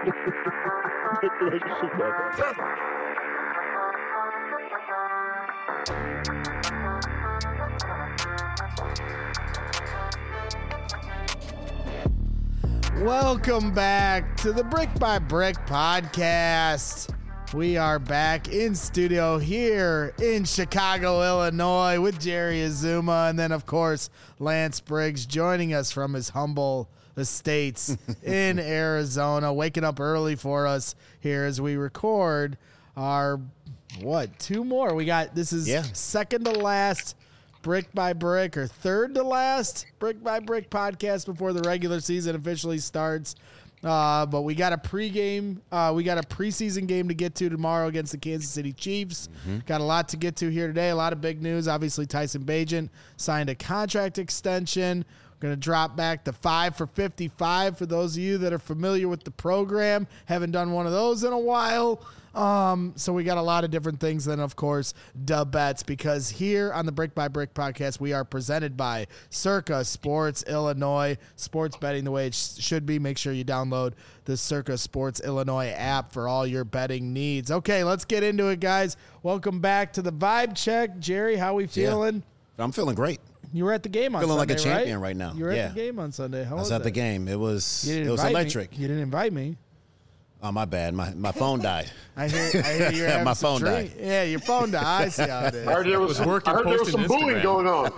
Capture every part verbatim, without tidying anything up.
Welcome back to the Brick by Brick podcast. We are back in studio here in Chicago, Illinois with Jerry Azuma, and then, of course, Lance Briggs joining us from his humble estates in Arizona, waking up early for us here as we record our, what, two more. We got, this is yeah. second to last Brick by Brick, or third to last Brick by Brick podcast before the regular season officially starts. Uh, but we got a pregame, uh, we got a preseason game to get to tomorrow against the Kansas City Chiefs. Mm-hmm. Got a lot to get to here today. A lot of big news. Obviously, Tyson Bagent signed a contract extension. We're going to drop back to five for fifty-five for those of you that are familiar with the program. Haven't done one of those in a while. Um, so we got a lot of different things. Then, of course, dub bets, because here on the Brick by Brick podcast, we are presented by Circa Sports Illinois. Sports betting the way it sh- should be. Make sure you download the Circa Sports Illinois app for all your betting needs. Okay, let's get into it, guys. Welcome back to the Vibe Check. Jerry, how we feeling? Yeah, I'm feeling great. You were at the game on feeling Sunday, like a champion right, right now. You were yeah. at the game on Sunday. How I was, was at that? the game. It was it was electric. Me. You didn't invite me. Oh, my bad. My my phone died. I hear, I hear you're having my some phone drink. died. Yeah, your phone died. I see how it is. I heard there was, was working I heard there was some Instagram. booing going on.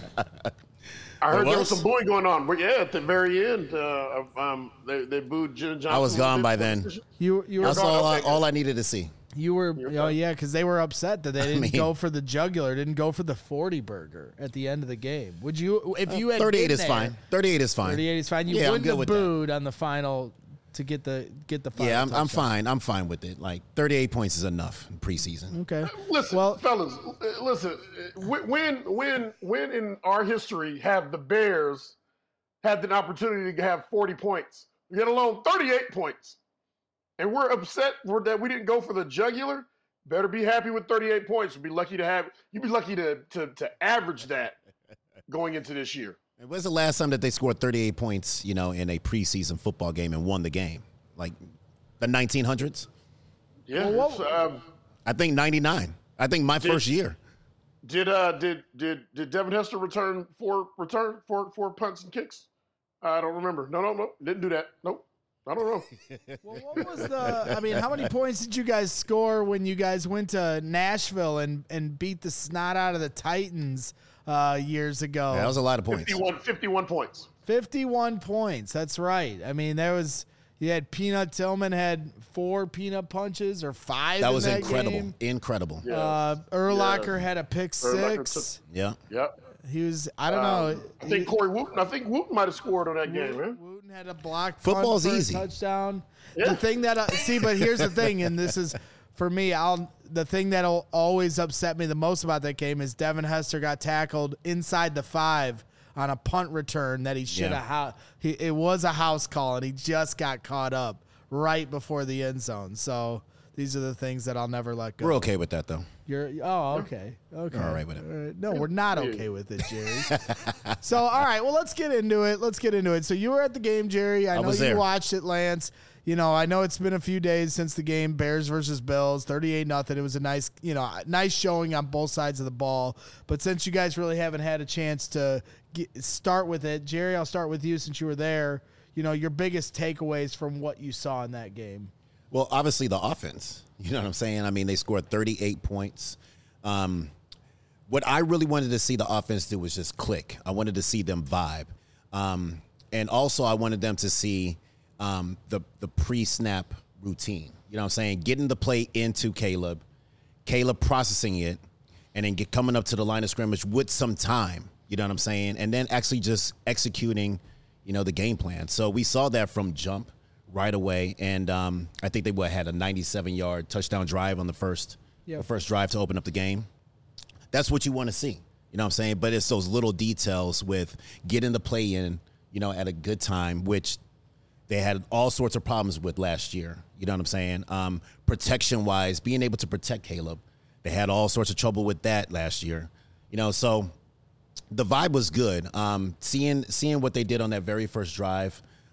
I heard There there was was? some booing going on. But yeah, at the very end, uh, um, they, they booed Jen Johnson. I was gone by then. You you were That's gone. all I, okay, all I needed to see. You were, oh yeah, because they were upset that they didn't mean- go for the jugular, didn't go for the forty burger at the end of the game. Would you, if you had thirty-eight been is there, fine. thirty-eight is fine. thirty-eight is fine. You Yeah, I'm wouldn't good have with that. booed on the final to get the get the final. Yeah, I'm, I'm touchdown. fine. I'm fine with it. Like thirty-eight points is enough in preseason. Okay. Listen, Well- fellas, uh, listen. uh, When, when, when in our history have the Bears had the opportunity to have forty points, let alone thirty-eight points, and we're upset for that we didn't go for the jugular? Better be happy with thirty-eight points. You'd be lucky to have. You'd be lucky to to, to average that going into this year. When's the last time that they scored thirty-eight points, you know, in a preseason football game and won the game? Like the nineteen hundreds? Yeah. Well, it's, um, I think ninety-nine. I think my Did- first year. Did uh did did did Devin Hester return four return four four punts and kicks? I don't remember. No, no, no. Didn't do that. Nope. I don't know. Well, what was the? I mean, how many points did you guys score when you guys went to Nashville and and beat the snot out of the Titans uh, years ago? Yeah, that was a lot of points. fifty-one, fifty-one points. fifty-one points. That's right. I mean, there was. You had Peanut Tillman had four peanut punches or five. That in was that incredible. game. Incredible. Yeah. Uh, Urlacher Yeah. had a pick Urlacher six. Yeah. Yep. He was. I don't Um, know. I think Corey Wooten. I think Wooten might have scored on that game, man. Wooten had a block. Football's punt for a easy. Touchdown. Yeah. The thing that uh, see, but here's the thing, and this is for me. I'll the thing that'll always upset me the most about that game is Devin Hester got tackled inside the five on a punt return that he should have. Yeah. Ha- he it was a house call, and he just got caught up right before the end zone. So these are the things that I'll never let go. We're okay with that, though. You're oh okay okay We're all right with it. All right. No, we're not okay with it, Jerry. So all right, well let's get into it. Let's get into it. So you were at the game, Jerry. I, I know was you there. watched it, Lance. You know, I know it's been a few days since the game, Bears versus Bills, thirty-eight nothing. It was a nice, you know, nice showing on both sides of the ball. But since you guys really haven't had a chance to get, start with it, Jerry, I'll start with you since you were there. You know, your biggest takeaways from what you saw in that game. Well, obviously the offense. You know what I'm saying? I mean, they scored thirty-eight points. Um, what I really wanted to see the offense do was just click. I wanted to see them vibe. Um, and also I wanted them to see um, the, the pre-snap routine. You know what I'm saying? Getting the play into Caleb, Caleb processing it, and then get coming up to the line of scrimmage with some time. You know what I'm saying? And then actually just executing, you know, the game plan. So we saw that from jump right away, and um, I think they what, had a ninety-seven-yard touchdown drive on the first, Yep. the first drive to open up the game. That's what you want to see, you know what I'm saying? But it's those little details with getting the play in, you know, at a good time, which they had all sorts of problems with last year, you know what I'm saying? Um, protection-wise, being able to protect Caleb, they had all sorts of trouble with that last year, you know, so the vibe was good. Um, seeing seeing what they did on that very first drive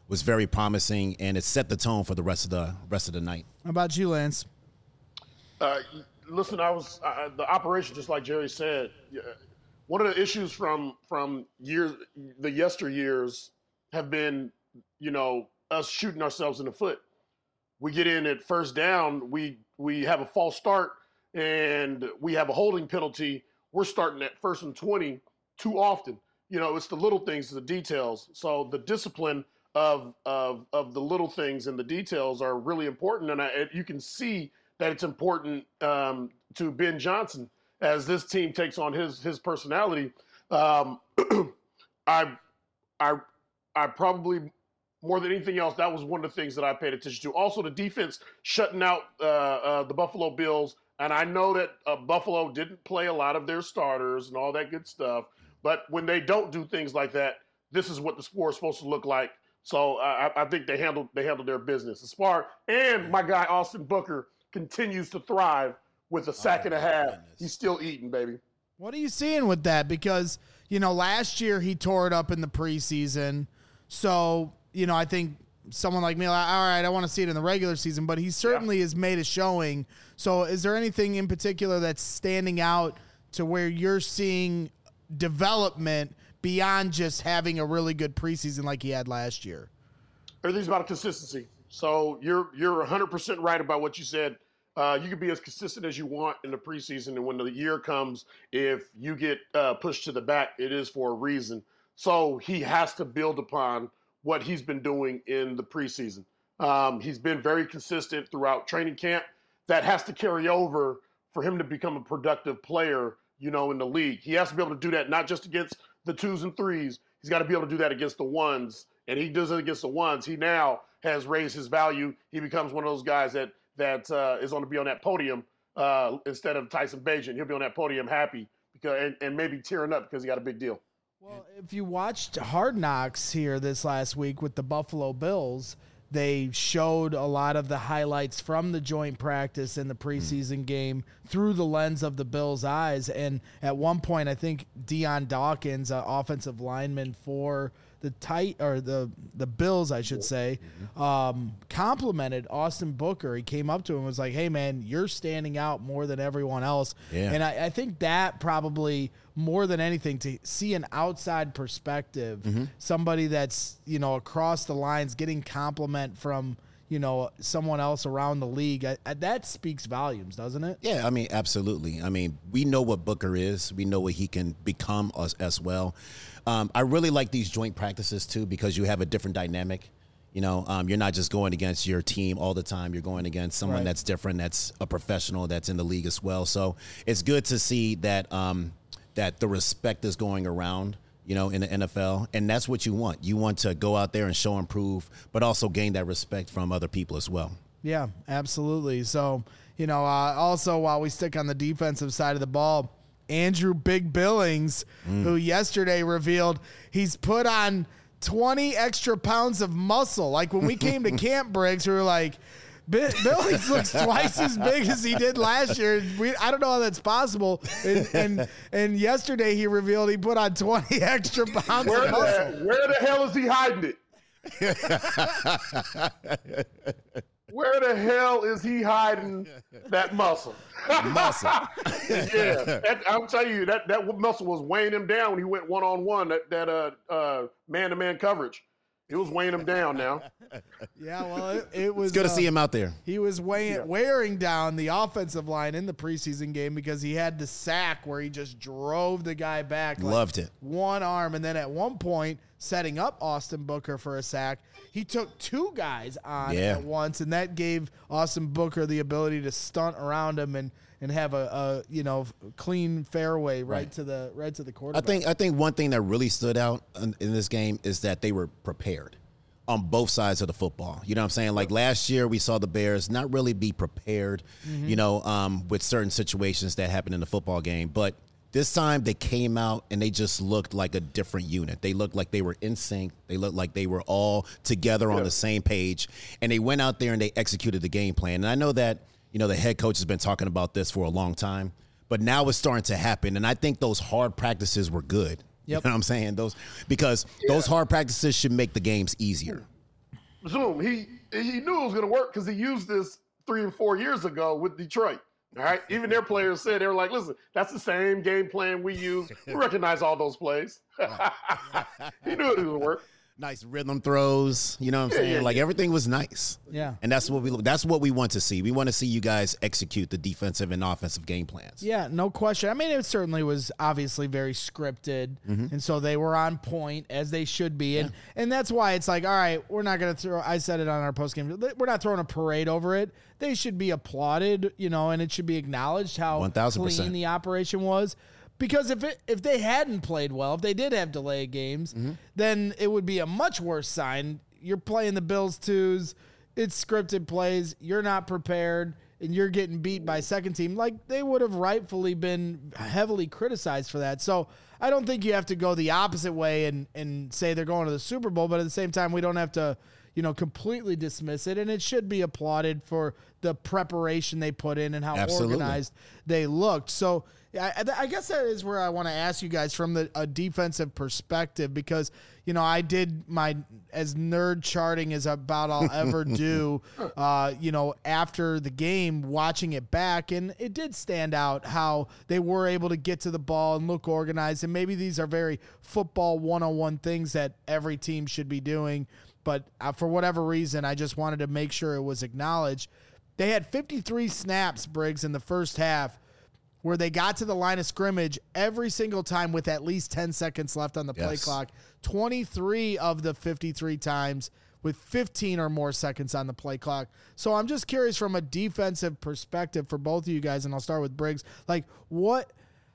was very promising, and it set the tone for the rest of the rest of the night. How about you, Lance? Uh, listen, I was uh, the operation, just like Jerry said. One of the issues from from years, the yesteryears, have been, you know, us shooting ourselves in the foot. We get in at first down, we we have a false start, and we have a holding penalty. We're starting at first and twenty too often. You know, it's the little things, the details. So the discipline of of of the little things and the details are really important, and I, you can see that it's important um, to Ben Johnson as this team takes on his his personality. Um, I I I probably, more than anything else, that was one of the things that I paid attention to. Also, the defense shutting out uh, uh, the Buffalo Bills. And I know that uh, Buffalo didn't play a lot of their starters and all that good stuff. But when they don't do things like that, this is what the sport is supposed to look like. So uh, I, I think they handled they handled their business. As far and my guy Austin Booker continues to thrive with a sack oh, and a half. Goodness. He's still eating, baby. What are you seeing with that? Because, you know, last year he tore it up in the preseason. So, you know, I think someone like me, like, all right, I want to see it in the regular season, but he certainly yeah. has made a showing. So is there anything in particular that's standing out to where you're seeing development beyond just having a really good preseason like he had last year? Everything's about consistency. So you're you're one hundred percent right about what you said. Uh, you can be as consistent as you want in the preseason, and when the year comes, if you get uh, pushed to the back, it is for a reason. So he has to build upon what he's been doing in the preseason. Um, he's been very consistent throughout training camp. That has to carry over for him to become a productive player, you know, in the league. He has to be able to do that, not just against the twos and threes. He's got to be able to do that against the ones, and he does it against the ones. He now has raised his value. He becomes one of those guys that that uh, is going to be on that podium uh, instead of Tyson Bagent. He'll be on that podium happy because and, and maybe tearing up because he got a big deal. Well, if you watched Hard Knocks here this last week with the Buffalo Bills, they showed a lot of the highlights from the joint practice in the preseason game through the lens of the Bills' eyes. And at one point, I think Dion Dawkins, uh, offensive lineman for the tight or the the Bills, I should say, um, complimented Austin Booker. He came up to him and was like, "Hey, man, you're standing out more than everyone else." Yeah. And I, I think that probably more than anything, to see an outside perspective, mm-hmm. somebody that's, you know, across the lines getting compliment from, you know, someone else around the league, I, I, that speaks volumes, doesn't it? Yeah, I mean, absolutely. I mean, we know what Booker is. We know what he can become as, as well. Um, I really like these joint practices, too, because you have a different dynamic. You know, um, you're not just going against your team all the time. You're going against someone right. that's different, that's a professional, that's in the league as well. So it's good to see that um, that the respect is going around, you know, in the N F L. And that's what you want. You want to go out there and show and prove, but also gain that respect from other people as well. Yeah, absolutely. So, you know, uh, also while we stick on the defensive side of the ball, Andrew Big Billings, mm. who yesterday revealed he's put on twenty extra pounds of muscle. Like when we came to Camp Briggs, we were like, Billings looks twice as big as he did last year. We, I don't know how that's possible. And, and and yesterday he revealed he put on twenty extra pounds where of the, muscle. Where the hell is he hiding it? Where the hell is he hiding that muscle? Muscle. yeah, that, I'm telling you, that, that muscle was weighing him down when he went one-on-one, that, that uh, uh, man-to-man coverage. It was weighing him down now. Yeah, well, it, it was. It's good uh, to see him out there. He was weighing, yeah. wearing down the offensive line in the preseason game because he had the sack where he just drove the guy back. Like Loved it. One arm. And then at one point, setting up Austin Booker for a sack, he took two guys on yeah. at once, and that gave Austin Booker the ability to stunt around him and and have a, a you know clean fairway right, right to the right to the quarterback. I think I think one thing that really stood out in, in this game is that they were prepared on both sides of the football. You know what I'm saying? Like last year we saw the Bears not really be prepared, mm-hmm. you know, um, with certain situations that happened in the football game. But this time they came out and they just looked like a different unit. They looked like they were in sync. They looked like they were all together on yeah. the same page. And they went out there and they executed the game plan. And I know that, you know, the head coach has been talking about this for a long time, but now it's starting to happen. And I think those hard practices were good. Yep. You know what I'm saying? Those because yeah. those hard practices should make the games easier. Zoom, he he knew it was going to work because he used this three or four years ago with Detroit. All right, even their players said they were like, "Listen, that's the same game plan we use. We recognize all those plays." He knew it was going to work. Nice rhythm throws, you know what I'm Yeah, saying? yeah, like yeah. everything was nice. Yeah. And that's what we that's what we want to see. We want to see you guys execute the defensive and offensive game plans. Yeah, no question. I mean, it certainly was obviously very scripted, Mm-hmm. and so they were on point as they should be, and and that's why it's like, all right, we're not going to throw. I said it on our post game. We're not throwing a parade over it. They should be applauded, you know, and it should be acknowledged how one thousand percent clean the operation was. Because if it, if they hadn't played well, if they did have delayed games, Mm-hmm. then it would be a much worse sign. You're playing the Bills twos, it's scripted plays, you're not prepared, and you're getting beat by second team. Like, they would have rightfully been heavily criticized for that. So I don't think you have to go the opposite way and, and say they're going to the Super Bowl, but at the same time, we don't have to, you know, completely dismiss it, and it should be applauded for the preparation they put in and how Absolutely. organized they looked. So I, I guess that is where I want to ask you guys from the a defensive perspective, because, you know, I did my as nerd charting as about I'll ever do, uh, you know, after the game, watching it back, and it did stand out how they were able to get to the ball and look organized. And maybe these are very football one oh one things that every team should be doing, but uh, for whatever reason, I just wanted to make sure it was acknowledged. They had fifty-three snaps, Briggs, in the first half, where they got to the line of scrimmage every single time with at least ten seconds left on the play Yes. clock. twenty-three of the fifty-three times with fifteen or more seconds on the play clock. So I'm just curious from a defensive perspective for both of you guys, and I'll start with Briggs. Like, what,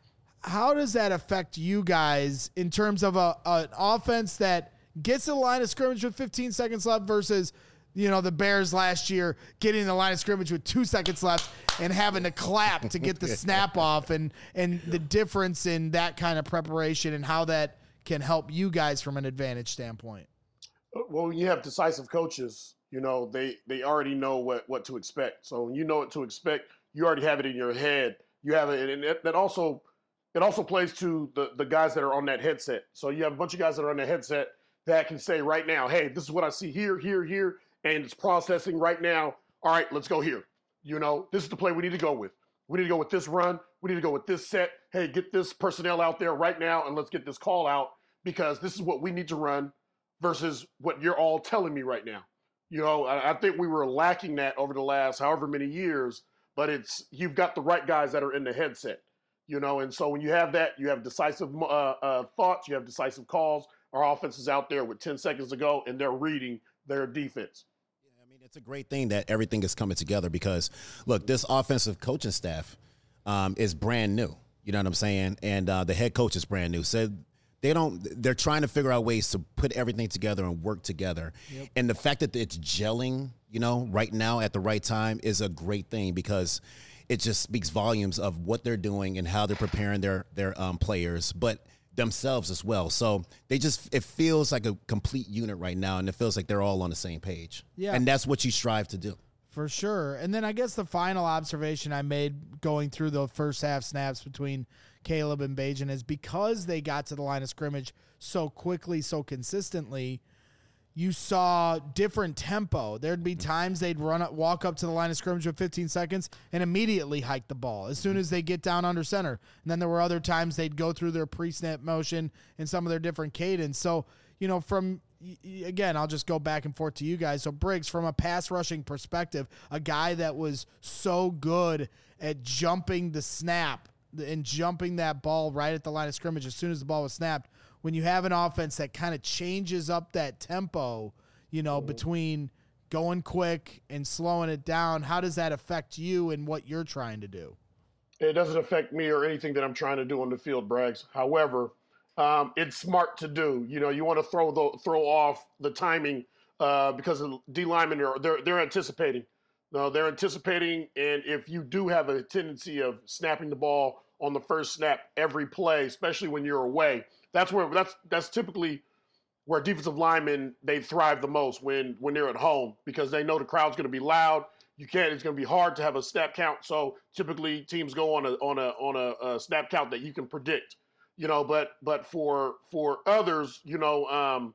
how does that affect you guys in terms of a an offense that gets to the line of scrimmage with fifteen seconds left versus, you know, the Bears last year getting the line of scrimmage with two seconds left and having to clap to get the snap off, and, and the difference in that kind of preparation and how that can help you guys from an advantage standpoint? Well, when you have decisive coaches, you know, they, they already know what, what to expect. So when you know what to expect, you already have it in your head. You have it, and it, that also it also plays to the, the guys that are on that headset. So you have a bunch of guys that are on the headset that can say right now, hey, this is what I see here, here, here, and it's processing right now. All right, let's go here. You know, this is the play we need to go with. We need to go with this run. We need to go with this set. Hey, get this personnel out there right now, and let's get this call out, because this is what we need to run versus what you're all telling me right now. You know, I, I think we were lacking that over the last however many years, but it's you've got the right guys that are in the headset, you know, and so when you have that, you have decisive uh, uh, thoughts, you have decisive calls. Our offense is out there with ten seconds to go, and they're reading their defense. It's a great thing that everything is coming together because, look, this offensive coaching staff um, is brand new. You know what I'm saying? And uh, the head coach is brand new. So they don't. They're trying to figure out ways to put everything together and work together. Yep. And the fact that it's gelling, you know, right now at the right time is a great thing because it just speaks volumes of what they're doing and how they're preparing their their um, players, but themselves as well. So they just, it feels like a complete unit right now, and it feels like they're all on the same page. Yeah. And that's what you strive to do. For sure. And then I guess the final observation I made going through the first half snaps between Caleb and Bajan is because they got to the line of scrimmage so quickly, so consistently, you saw different tempo. There'd be times they'd run up, walk up to the line of scrimmage with fifteen seconds and immediately hike the ball as soon as they get down under center. And then there were other times they'd go through their pre-snap motion and some of their different cadence. So, you know, from, again, I'll just go back and forth to you guys. So Briggs, from a pass rushing perspective, a guy that was so good at jumping the snap and jumping that ball right at the line of scrimmage as soon as the ball was snapped, when you have an offense that kind of changes up that tempo, you know, between going quick and slowing it down, how does that affect you and what you're trying to do? It doesn't affect me or anything that I'm trying to do on the field, Braggs. However, um, it's smart to do. You know, you want to throw the, throw off the timing uh, because of D linemen are they're they're anticipating. No, they're anticipating, and if you do have a tendency of snapping the ball on the first snap every play, especially when you're away, that's where that's that's typically where defensive linemen they thrive the most when when they're at home because they know the crowd's going to be loud. You can't. It's going to be hard to have a snap count. So typically teams go on a on a on a, a snap count that you can predict. You know, but but for for others, you know, um,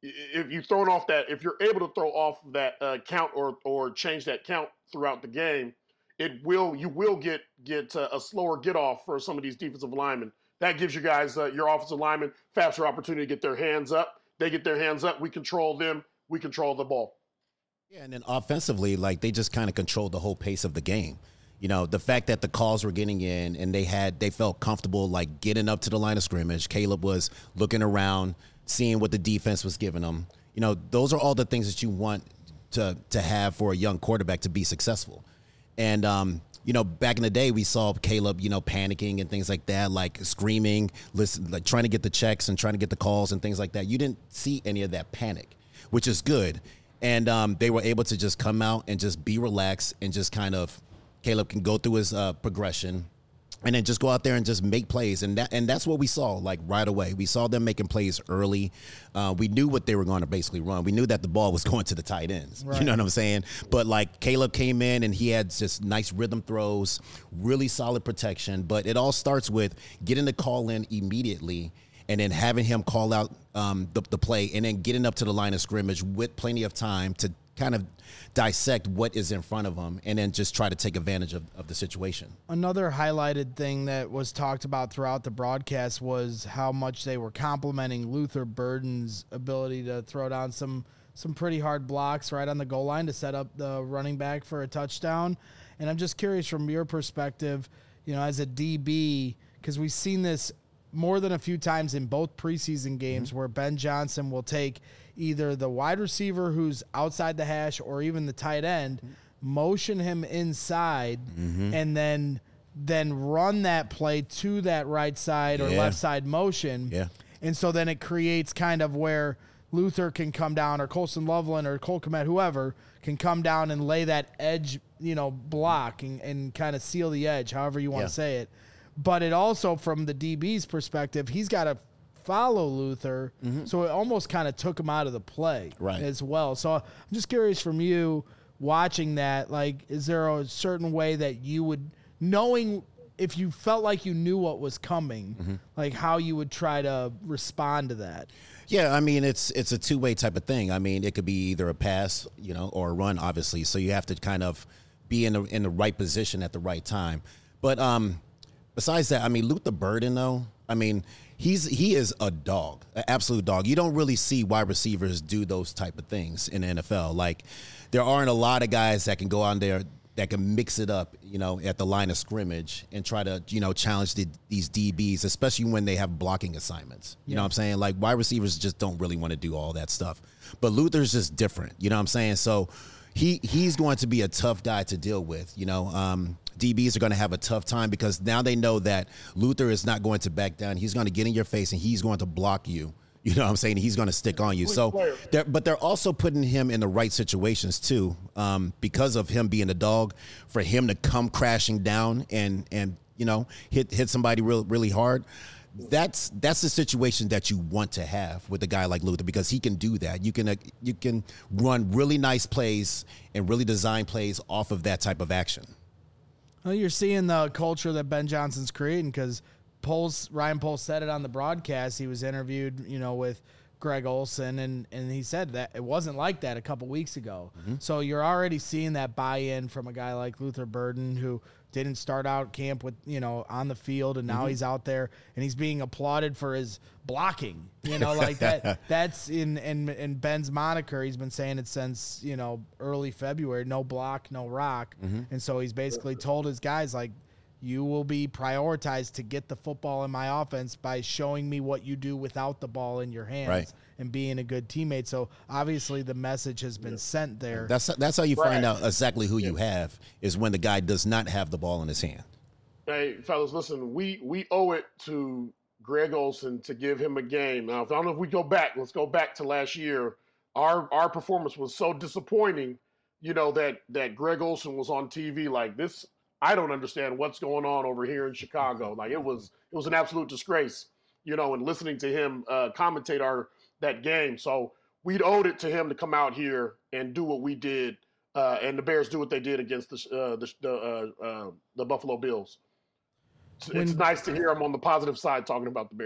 if you've thrown off that, if you're able to throw off that uh, count or or change that count throughout the game, it will you will get get uh, a slower get off for some of these defensive linemen. That gives you guys uh, your offensive linemen faster opportunity to get their hands up. They get their hands up. We control them. We control the ball. Yeah, and then offensively, like they just kind of controlled the whole pace of the game. You know, the fact that the calls were getting in and they had they felt comfortable like getting up to the line of scrimmage. Caleb was looking around, seeing what the defense was giving them. You know, those are all the things that you want to to have for a young quarterback to be successful. And um, you know, back in the day, we saw Caleb, you know, panicking and things like that, like screaming, listen, like trying to get the checks and trying to get the calls and things like that. You didn't see any of that panic, which is good. And um, they were able to just come out and just be relaxed and just kind of, Caleb can go through his uh, progression and then just go out there and just make plays. And that and that's what we saw, like, right away. We saw them making plays early. Uh, we knew what they were going to basically run. We knew that the ball was going to the tight ends. Right. You know what I'm saying? But, like, Caleb came in and he had just nice rhythm throws, really solid protection. But it all starts with getting the call in immediately and then having him call out um, the, the play and then getting up to the line of scrimmage with plenty of time to kind of dissect what is in front of them and then just try to take advantage of, of the situation. Another highlighted thing that was talked about throughout the broadcast was how much they were complimenting Luther Burden's ability to throw down some some pretty hard blocks right on the goal line to set up the running back for a touchdown. And I'm just curious from your perspective, you know, as a D B, because we've seen this more than a few times in both preseason games mm-hmm. where Ben Johnson will take either the wide receiver who's outside the hash or even the tight end, motion him inside, mm-hmm. and then then run that play to that right side or yeah. left side motion. Yeah. And so then it creates kind of where Luther can come down or Colston Loveland or Cole Kmet, whoever, can come down and lay that edge, you know, block and, and kind of seal the edge, however you want yeah. to say it. But it also, from the D B's perspective, he's got to follow Luther, mm-hmm. so it almost kind of took him out of the play right. as well. So I'm just curious from you watching that, like, is there a certain way that you would, knowing if you felt like you knew what was coming, mm-hmm. like how you would try to respond to that? Yeah, I mean, it's it's a two-way type of thing. I mean, it could be either a pass, you know, or a run, obviously. So you have to kind of be in the, in the right position at the right time. But um, besides that, I mean, Luther Burden, though, I mean, he's he is a dog, an absolute dog. You don't really see wide receivers do those type of things in the N F L. Like, there aren't a lot of guys that can go on there that can mix it up, you know, at the line of scrimmage and try to, you know, challenge the, these D Bs, especially when they have blocking assignments. You yeah. know what I'm saying? Like, wide receivers just don't really want to do all that stuff. But Luther's just different, you know what I'm saying? So he he's going to be a tough guy to deal with, you know. Um, D Bs are going to have a tough time because now they know that Luther is not going to back down. He's going to get in your face and he's going to block you. You know what I'm saying? He's going to stick on you. So, they're, but they're also putting him in the right situations too, um, because of him being a dog, for him to come crashing down and and you know hit hit somebody real really hard. That's that's the situation that you want to have with a guy like Luther, because he can do that. You can uh, you can run really nice plays and really design plays off of that type of action. Well, you're seeing the culture that Ben Johnson's creating, because Poles, Ryan Poles said it on the broadcast. He was interviewed, you know, with Greg Olsen, and, and he said that it wasn't like that a couple weeks ago. Mm-hmm. So you're already seeing that buy-in from a guy like Luther Burden, who didn't start out camp with, you know, on the field, and now mm-hmm. he's out there and he's being applauded for his blocking, you know, like that. That's in, in, in Ben's moniker. He's been saying it since, you know, early February, no block, no rock. Mm-hmm. And so he's basically told his guys, like, you will be prioritized to get the football in my offense by showing me what you do without the ball in your hands, right, and being a good teammate. So obviously the message has been yeah. sent there. That's that's how you right. find out exactly who yeah. you have, is when the guy does not have the ball in his hand. Hey, fellas, listen, we we owe it to Greg Olsen to give him a game. Now, if I don't know if we go back, let's go back to last year. Our our performance was so disappointing, you know, that that Greg Olsen was on T V like this. I don't understand what's going on over here in Chicago. Like, it was, it was an absolute disgrace, you know, and listening to him uh, commentate our that game. So we'd owed it to him to come out here and do what we did, uh, and the Bears do what they did against the uh, the the, uh, uh, the Buffalo Bills. It's, when, it's nice to hear him on the positive side talking about the Bears.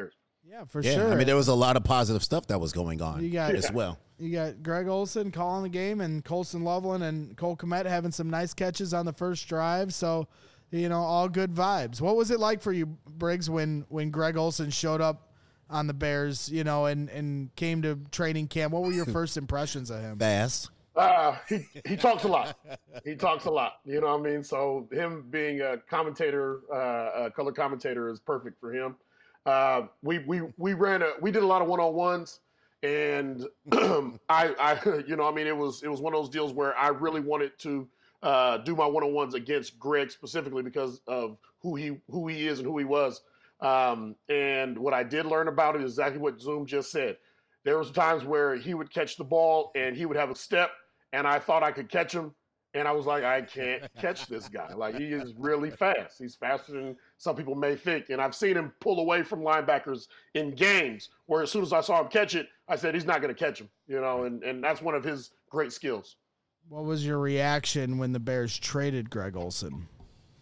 Yeah, for yeah, sure. I mean, there was a lot of positive stuff that was going on You got- as Yeah. well. You got Greg Olsen calling the game and Colston Loveland and Cole Kmet having some nice catches on the first drive. So, you know, all good vibes. What was it like for you, Briggs, when, when Greg Olsen showed up on the Bears, you know, and, and came to training camp? What were your first impressions of him? Fast. Uh, he he talks a lot. He talks a lot. You know what I mean? So him being a commentator, uh, a color commentator, is perfect for him. Uh, we we we ran a we did a lot of one on ones, and I I you know I mean it was it was one of those deals where I really wanted to uh, do my one on ones against Greg specifically because of who he who he is and who he was. Um, and what I did learn about it is exactly what Zoom just said. There was times where he would catch the ball and he would have a step, and I thought I could catch him, and I was like, I can't catch this guy. Like, he is really fast. He's faster than some people may think. And I've seen him pull away from linebackers in games where as soon as I saw him catch it, I said, he's not going to catch him, you know, and, and that's one of his great skills. What was your reaction when the Bears traded Greg Olsen?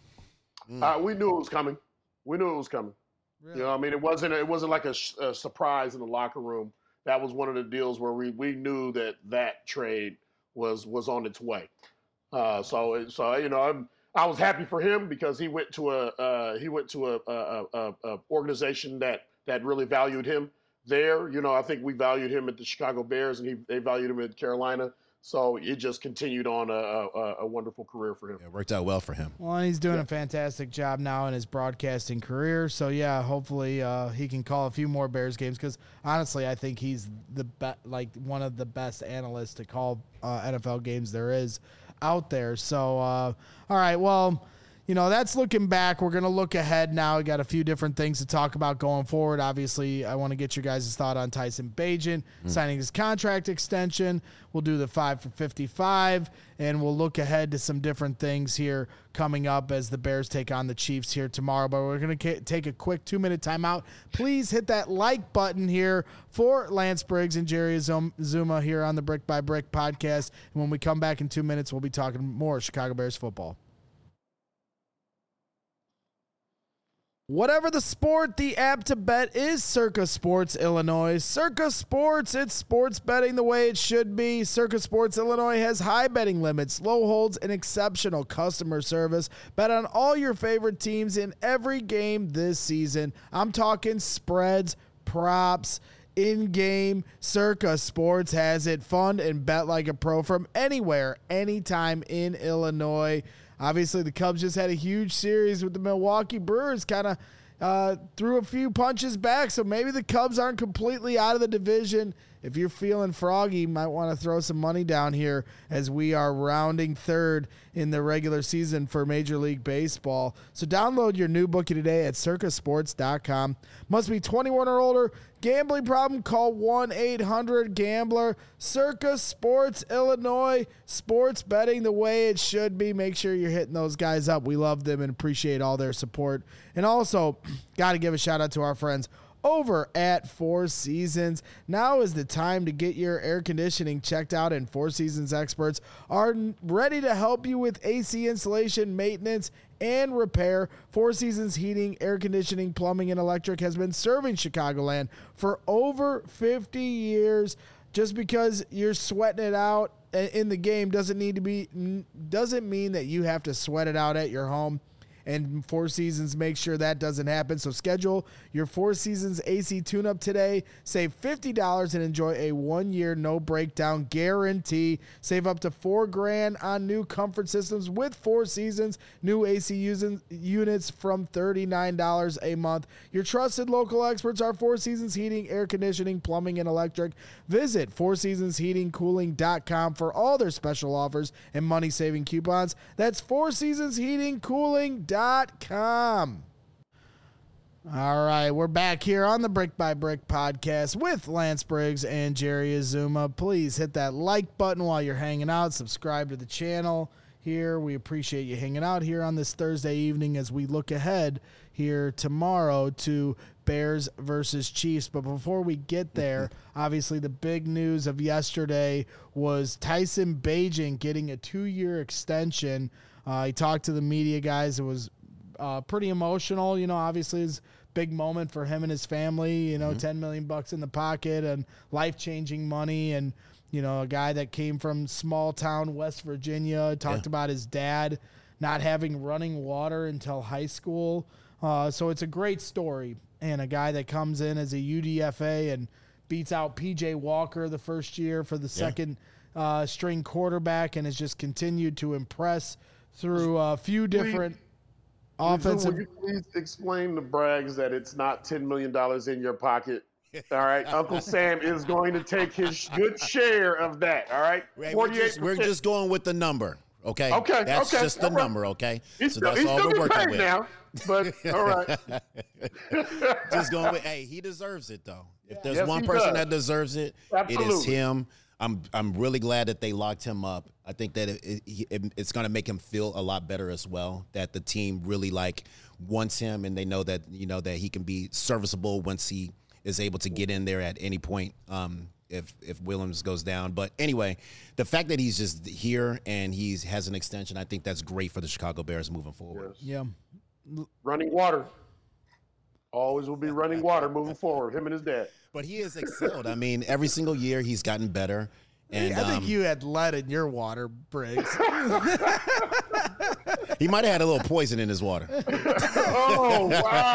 Uh, we knew it was coming. We knew it was coming. Really? You know, I mean, it wasn't it wasn't like a, a surprise in the locker room. That was one of the deals where we, we knew that that trade was was on its way. Uh, so so you know, I'm, I was happy for him because he went to a uh, he went to a, a, a, a organization that that really valued him there. You know, I think we valued him at the Chicago Bears, and he they valued him at Carolina. So it just continued on a, a, a wonderful career for him. It worked out well for him. Well, he's doing Yeah. a fantastic job now in his broadcasting career. So, yeah, hopefully uh, he can call a few more Bears games because, honestly, I think he's the be- like one of the best analysts to call uh, N F L games there is out there. So, uh, all right, well, you know, that's looking back. We're going to look ahead now. We got a few different things to talk about going forward. Obviously, I want to get your guys' thought on Tyson Bagent mm. signing his contract extension. We'll do the five for fifty-five, and we'll look ahead to some different things here coming up as the Bears take on the Chiefs here tomorrow. But we're going to take a quick two-minute timeout. Please hit that like button here for Lance Briggs and Jerry Zuma here on the Brick by Brick podcast. And when we come back in two minutes, we'll be talking more Chicago Bears football. Whatever the sport, the app to bet is Circa Sports Illinois. Circa Sports, it's sports betting the way it should be. Circa Sports Illinois has high betting limits, low holds, and exceptional customer service. Bet on all your favorite teams in every game this season. I'm talking spreads, props, in-game. Circa Sports has it. Fun and bet like a pro from anywhere, anytime in Illinois. Obviously, the Cubs just had a huge series with the Milwaukee Brewers, kind of uh, threw a few punches back, so maybe the Cubs aren't completely out of the division. If you're feeling froggy, you might want to throw some money down here as we are rounding third in the regular season for Major League Baseball. So download your new bookie today at circa sports dot com. Must be twenty-one or older. Gambling problem? Call one eight hundred gambler. Circa Sports Illinois. Sports betting the way it should be. Make sure you're hitting those guys up. We love them and appreciate all their support. And also, got to give a shout out to our friends over at Four Seasons. Now is the time to get your air conditioning checked out, and Four Seasons experts are ready to help you with A C installation, maintenance, and repair. Four Seasons Heating, Air Conditioning, Plumbing, and Electric has been serving Chicagoland for over fifty years. Just because you're sweating it out in the game doesn't need to be doesn't mean that you have to sweat it out at your home. And Four Seasons makes sure that doesn't happen. So schedule your Four Seasons A C tune-up today. Save fifty dollars and enjoy a one-year no-breakdown guarantee. Save up to four grand on new comfort systems with Four Seasons. New A C using, units from thirty-nine dollars a month. Your trusted local experts are Four Seasons Heating, Air Conditioning, Plumbing, and Electric. Visit four seasons heating cooling dot com for all their special offers and money-saving coupons. That's four seasons heating cooling dot com. All right, we're back here on the Brick by Brick podcast with Lance Briggs and Jerry Azuma. Please hit that like button while you're hanging out. Subscribe to the channel here. We appreciate you hanging out here on this Thursday evening as we look ahead here tomorrow to Bears versus Chiefs. But before we get there, obviously the big news of yesterday was Tyson Bagent getting a two-year extension. Uh, he talked to the media guys. It was uh, pretty emotional. You know, obviously his big moment for him and his family. You know, Mm-hmm. ten million bucks in the pocket and life changing money, and you know, a guy that came from small town West Virginia. Talked Yeah. about his dad not having running water until high school. Uh, so it's a great story, and a guy that comes in as a U D F A and beats out P J Walker the first year for the second uh, string quarterback, and has just continued to impress through a few different offensive. Will you please explain to Braggs that it's not ten million dollars in your pocket? All right. Uncle Sam is going to take his good share of that. All right. Right, we're, just, we're just going with the number. Okay. Okay, That's okay, just the all right. number. Okay. He's so still, that's he's all still we're getting working paid with. now. But all right. Just going with, hey, he deserves it though. If there's Yes, one he person does. that deserves it, it is Absolutely. him. I'm I'm really glad that they locked him up. I think that it, it, it, it's going to make him feel a lot better as well. That the team really like wants him, and they know that you know that he can be serviceable once he is able to get in there at any point. Um, if if Williams goes down, but anyway, the fact that he's just here and he's has an extension, I think that's great for the Chicago Bears moving forward. Yeah. Running water. Always will be running water moving forward. Him and his dad. But he has excelled. I mean, every single year he's gotten better. And I think um, you had lead in your water, Briggs. he might have had a little poison in his water. Oh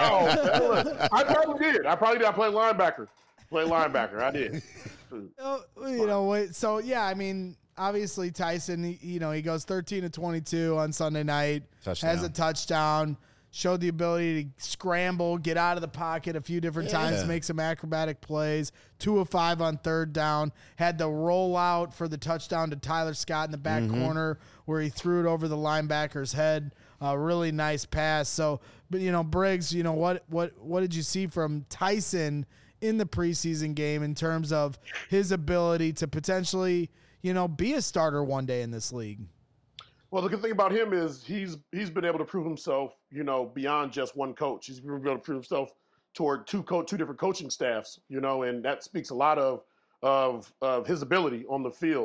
wow! I probably did. I probably did. I played linebacker. Played linebacker. I did. Oh, you know, wait, so yeah, I mean, obviously Tyson, he, you know, he goes thirteen to twenty-two on Sunday night, Touchdown. has a touchdown, showed the ability to scramble, get out of the pocket a few different Yeah. times, make some acrobatic plays, two of five on third down, had the rollout for the touchdown to Tyler Scott in the back Mm-hmm. corner where he threw it over the linebacker's head. A really nice pass. So, but you know, Briggs, you know, what, what, what did you see from Tyson in the preseason game in terms of his ability to potentially, you know, be a starter one day in this league? Well, the good thing about him is he's he's been able to prove himself, you know, beyond just one coach. He's been able to prove himself toward two co- two different coaching staffs, you know, and that speaks a lot of of of his ability on the field.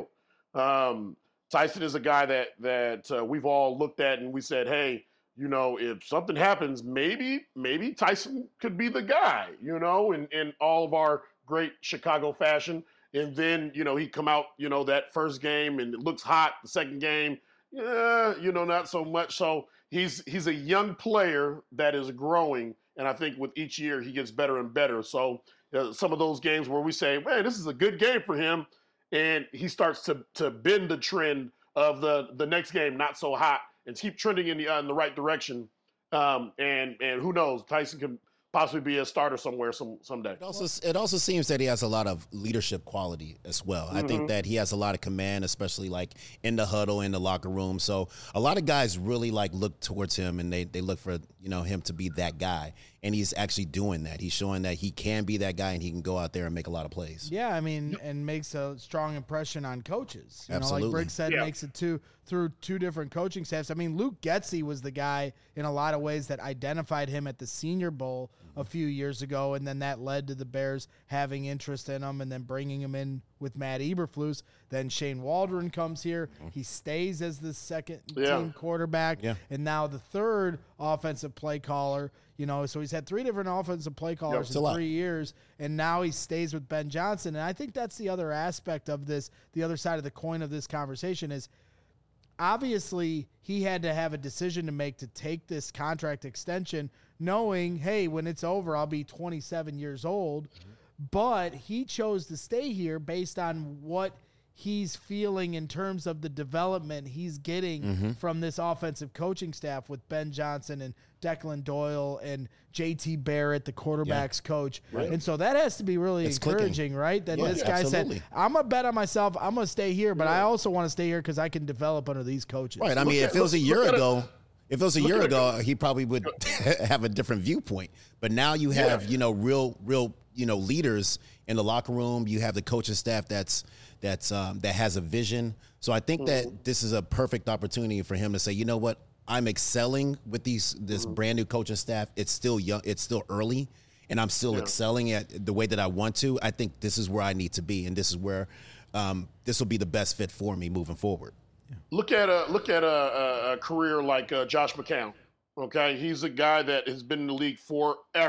Um, Tyson is a guy that that uh, we've all looked at and we said, hey, you know, if something happens, maybe maybe Tyson could be the guy, you know, in in all of our great Chicago fashion. And then, you know, he come out, you know, that first game and it looks hot. The second game, yeah, you know, not so much. So he's he's a young player that is growing, and I think with each year he gets better and better. So uh, some of those games where we say, man, this is a good game for him, and he starts to to bend the trend of the the next game not so hot and keep trending in the uh, in the right direction. Um, and and who knows, Tyson can possibly be a starter somewhere some someday. It also, it also seems that he has a lot of leadership quality as well. I think that he has a lot of command, especially like in the huddle, in the locker room. So a lot of guys really like look towards him and they, they look for, you know, him to be that guy. And he's actually doing that. He's showing that he can be that guy and he can go out there and make a lot of plays. Yeah, I mean, and makes a strong impression on coaches. You know, Absolutely. like Briggs said, Yeah. makes it two through two different coaching staffs. I mean, Luke Getsy was the guy in a lot of ways that identified him at the Senior Bowl a few years ago, and then that led to the Bears having interest in him and then bringing him in with Matt Eberflus. Then Shane Waldron comes here. He stays as the second Yeah. team quarterback, Yeah. and now the third offensive play caller. You know, so he's had three different offensive play callers it's a in lot. three years, and now he stays with Ben Johnson. And I think that's the other aspect of this, the other side of the coin of this conversation is obviously he had to have a decision to make to take this contract extension, knowing, hey, when it's over, I'll be twenty-seven years old. But he chose to stay here based on what he's feeling in terms of the development he's getting from this offensive coaching staff with Ben Johnson and Declan Doyle and J T Barrett, the quarterback's coach. And so that has to be really It's clicking. encouraging, right? That Yeah, this guy absolutely. said, I'm going to bet on myself. I'm going to stay here, but I also want to stay here because I can develop under these coaches. Right. I mean, Look if at- it was a look- year look at it. ago, if it was a year at it. ago, he probably would have a different viewpoint. But now you have, Yeah. you know, real, real, you know, leaders in the locker room. You have the coaching staff that's that's um, that has a vision. So I think that this is a perfect opportunity for him to say, you know what, I'm excelling with these this brand new coaching staff. It's still young. It's still early, and I'm still Yeah. excelling at the way that I want to. I think this is where I need to be, and this is where um, this will be the best fit for me moving forward. Look at a look at a, a, a career like uh, Josh McCown. Okay, he's a guy that has been in the league forever,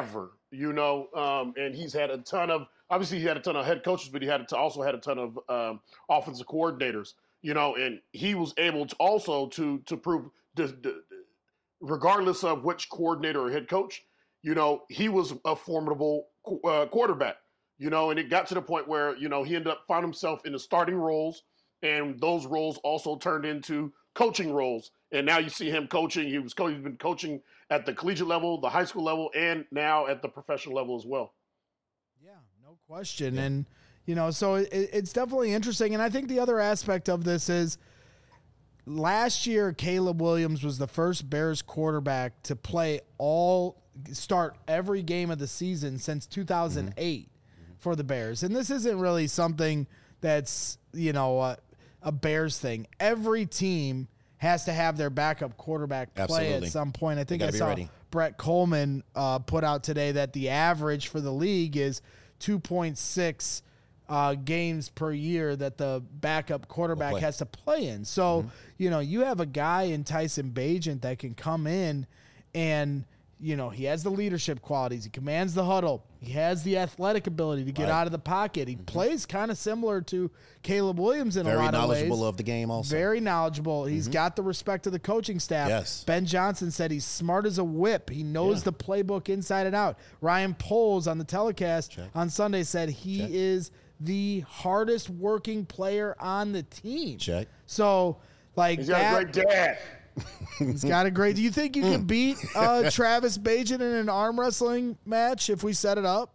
you know, um, and he's had a ton of, obviously he had a ton of head coaches, but he had to also had a ton of um, offensive coordinators, you know, and he was able to also to to prove, the, the, regardless of which coordinator or head coach, you know, he was a formidable uh, quarterback, you know, and it got to the point where, you know, he ended up found himself in the starting roles, and those roles also turned into coaching roles. And now you see him coaching. He was co- he's been coaching at the collegiate level, the high school level, and now at the professional level as well. Yeah, no question. Yeah. And, you know, so it, it's definitely interesting. And I think the other aspect of this is last year, Caleb Williams was the first Bears quarterback to play all start every game of the season since two thousand eight mm-hmm. for the Bears. And this isn't really something that's, you know, uh, a Bears thing. Every team has to have their backup quarterback play Absolutely. At some point. I think I saw ready. Brett Coleman uh, put out today that the average for the league is two point six uh, games per year that the backup quarterback we'll has to play in. So, mm-hmm. you know, you have a guy in Tyson Bagent that can come in and, you know, he has the leadership qualities. He commands the huddle. He has the athletic ability to get right. out of the pocket. He mm-hmm. plays kind of similar to Caleb Williams in Very a lot of ways. Very knowledgeable of the game also. Very knowledgeable. He's mm-hmm. got the respect of the coaching staff. Yes. Ben Johnson said he's smart as a whip. He knows yeah. the playbook inside and out. Ryan Poles on the telecast Check. on Sunday said he Check. is the hardest working player on the team. Check. So, like he's that, got a great dad. He's got a great. Do you think you can beat uh, Travis Bagent in an arm wrestling match if we set it up?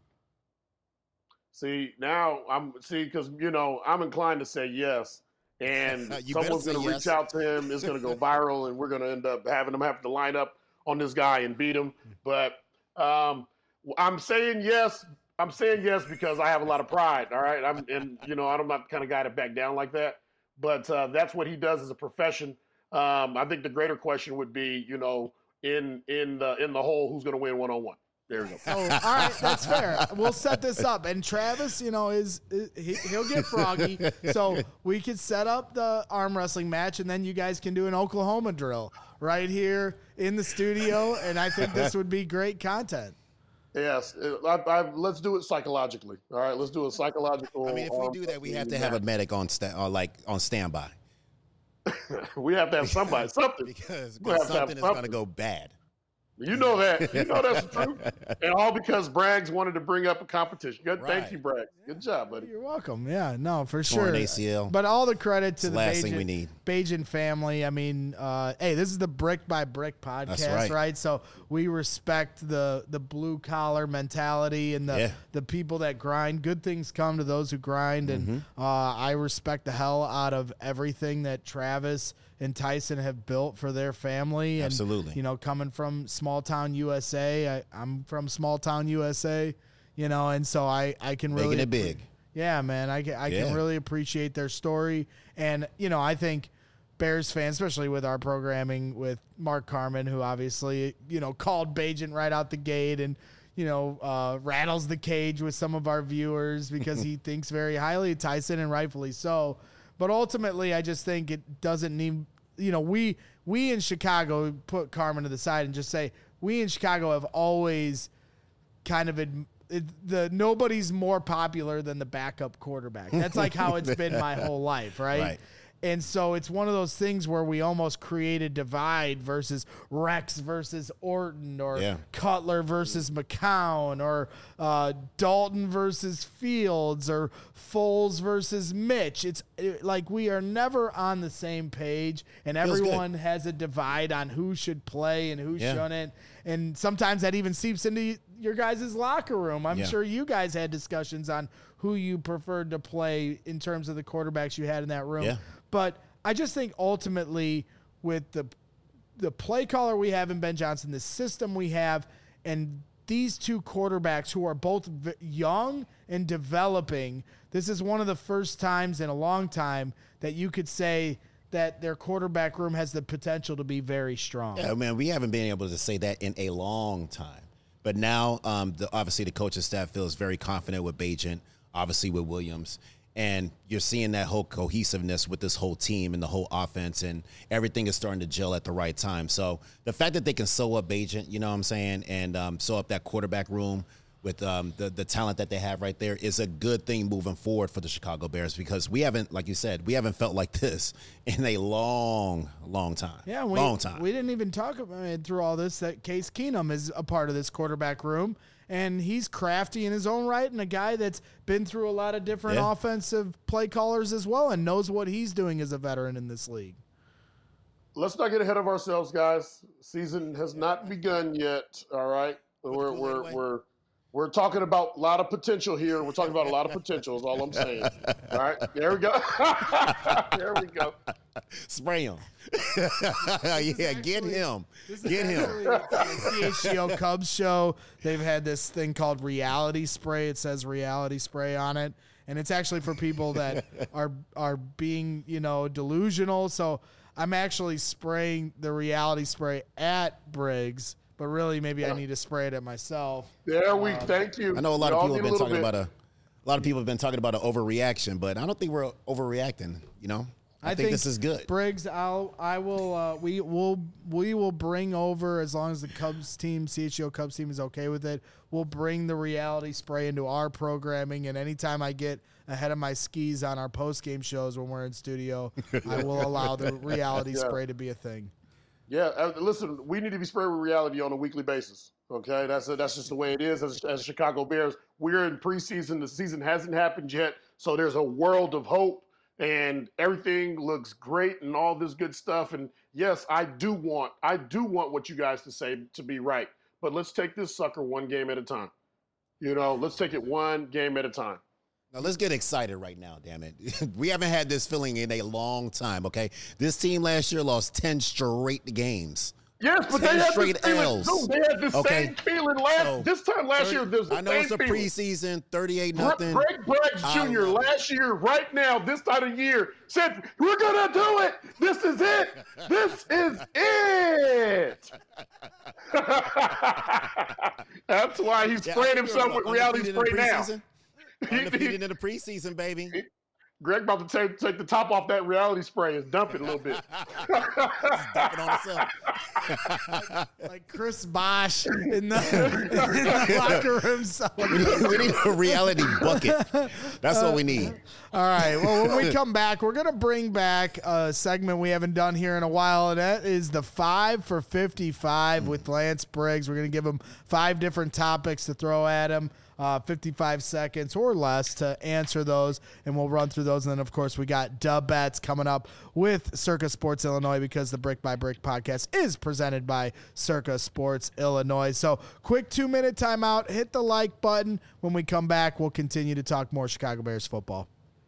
See, now I'm see because you know I'm inclined to say yes, and someone's going to yes. reach out to him. It's going to go viral, and we're going to end up having him have to line up on this guy and beat him. But um, I'm saying yes. I'm saying yes because I have a lot of pride. All right, I'm and you know I'm not the kind of guy to back down like that. But uh, that's what he does as a profession. Um, I think the greater question would be, you know, in in the in the whole, who's going to win one on one. There you go. Oh, all right, that's fair. We'll set this up, and Travis, you know, is, is he, he'll get froggy, so we could set up the arm wrestling match, and then you guys can do an Oklahoma drill right here in the studio, and I think this would be great content. Yes, I, I, let's do it psychologically. All right, let's do a psychological. I mean, if we do that, we have to have match. a medic on sta- or like on standby. We have to have somebody, something. because because something is going to go bad. You know that. You know that's the truth. And all because Braggs wanted to bring up a competition. Good, right. Thank you, Braggs. Good job, buddy. You're welcome. Yeah, no, for Torn sure. A C L. But all the credit to it's the, the last Bagent, thing we need. Bagent family. I mean, uh, hey, this is the Brick by Brick podcast, that's right. right? So we respect the the blue collar mentality and the yeah. the people that grind. Good things come to those who grind, and mm-hmm. uh, I respect the hell out of everything that Travis and Tyson have built for their family. And, Absolutely. You know, coming from small town U S A, I, I'm from small town U S A, you know, and so I, I can really. Making it big. Yeah, man. I, I yeah. can really appreciate their story. And, you know, I think Bears fans, especially with our programming with Mark Carman, who obviously, you know, called Bagent right out the gate and, you know, uh, rattles the cage with some of our viewers because he thinks very highly of Tyson, and rightfully so. But ultimately, I just think it doesn't need, you know, we we in Chicago put Carman to the side and just say we in Chicago have always kind of ad, it, the nobody's more popular than the backup quarterback. That's like how it's been my whole life, right? Right. And so it's one of those things where we almost create a divide versus Rex versus Orton, or yeah. Cutler versus McCown, or uh, Dalton versus Fields, or Foles versus Mitch. It's it, like we are never on the same page, and Feels everyone good. has a divide on who should play and who yeah. shouldn't. And sometimes that even seeps into your guys' locker room. I'm yeah. sure you guys had discussions on who you preferred to play in terms of the quarterbacks you had in that room. Yeah. But I just think ultimately with the the play caller we have in Ben Johnson, the system we have, and these two quarterbacks who are both v- young and developing, this is one of the first times in a long time that you could say that their quarterback room has the potential to be very strong. Yeah, man, we haven't been able to say that in a long time. But now, um, the, obviously, the coaching staff feels very confident with Bagent, obviously with Williams. And you're seeing that whole cohesiveness with this whole team and the whole offense, and everything is starting to gel at the right time. So the fact that they can sew up Agent, you know what I'm saying, and um, sew up that quarterback room with um, the, the talent that they have right there is a good thing moving forward for the Chicago Bears, because we haven't, like you said, we haven't felt like this in a long, long time. Yeah, we, long time. We didn't even talk about I mean, through all this that Case Keenum is a part of this quarterback room. And he's crafty in his own right, and a guy that's been through a lot of different yeah. offensive play callers as well, and knows what he's doing as a veteran in this league. Let's not get ahead of ourselves, guys. Season has not begun yet. All right, we're we're we're we're talking about a lot of potential here. We're talking about a lot of potential. Is all I'm saying. All right, there we go. There we go. Spray him. yeah, actually, get him. Get him. The C H G O Cubs show, they've had this thing called reality spray. It says reality spray on it. And it's actually for people that are are being, you know, delusional. So I'm actually spraying the reality spray at Briggs, but really maybe yeah. I need to spray it at myself. There we um, thank you. I know a lot we of people have been talking bit. about a a lot of people have been talking about an overreaction, but I don't think we're overreacting, you know? I, I think, think this is good. Briggs, I'll, I will, uh, we will, we will bring over, as long as the Cubs team, C H G O Cubs team is okay with it, we'll bring the reality spray into our programming. And anytime I get ahead of my skis on our post-game shows when we're in studio, I will allow the reality yeah. spray to be a thing. Yeah. Uh, listen, we need to be sprayed with reality on a weekly basis. Okay. That's a, that's just the way it is as, as Chicago Bears. We're in preseason. The season hasn't happened yet. So there's a world of hope. And everything looks great and all this good stuff. And yes, I do want, I do want what you guys to say to be right. But let's take this sucker one game at a time. You know, let's take it one game at a time. Now let's get excited right now, damn it. We haven't had this feeling in a long time, okay? This team last year lost ten straight games. Yes, but they had, straight L's. No, they had the okay. same feeling last so, this time last thirty, year. There's the I know same it's a feeling. preseason, thirty-eight nothing. Greg Braggs Junior last year, right now, this time of year, said, "We're gonna do it. This is it. This is it." That's why he's yeah, spraying himself with reality spray now. Undefeated in the preseason, baby. Greg about to take, take the top off that reality spray and dump it a little bit. Dump it on himself. like, like Chris Bosh in the, in the locker room. We need, we need a reality bucket. That's uh, what we need. All right. Well, when we come back, we're going to bring back a segment we haven't done here in a while, and that is the five for fifty-five with Lance Briggs. We're going to give him five different topics to throw at him. Uh, fifty-five seconds or less to answer those, and we'll run through those. And then, of course, we got dub bets coming up with Circa Sports Illinois, because the Brick by Brick podcast is presented by Circa Sports Illinois. So quick two-minute timeout. Hit the like button. When we come back, we'll continue to talk more Chicago Bears football.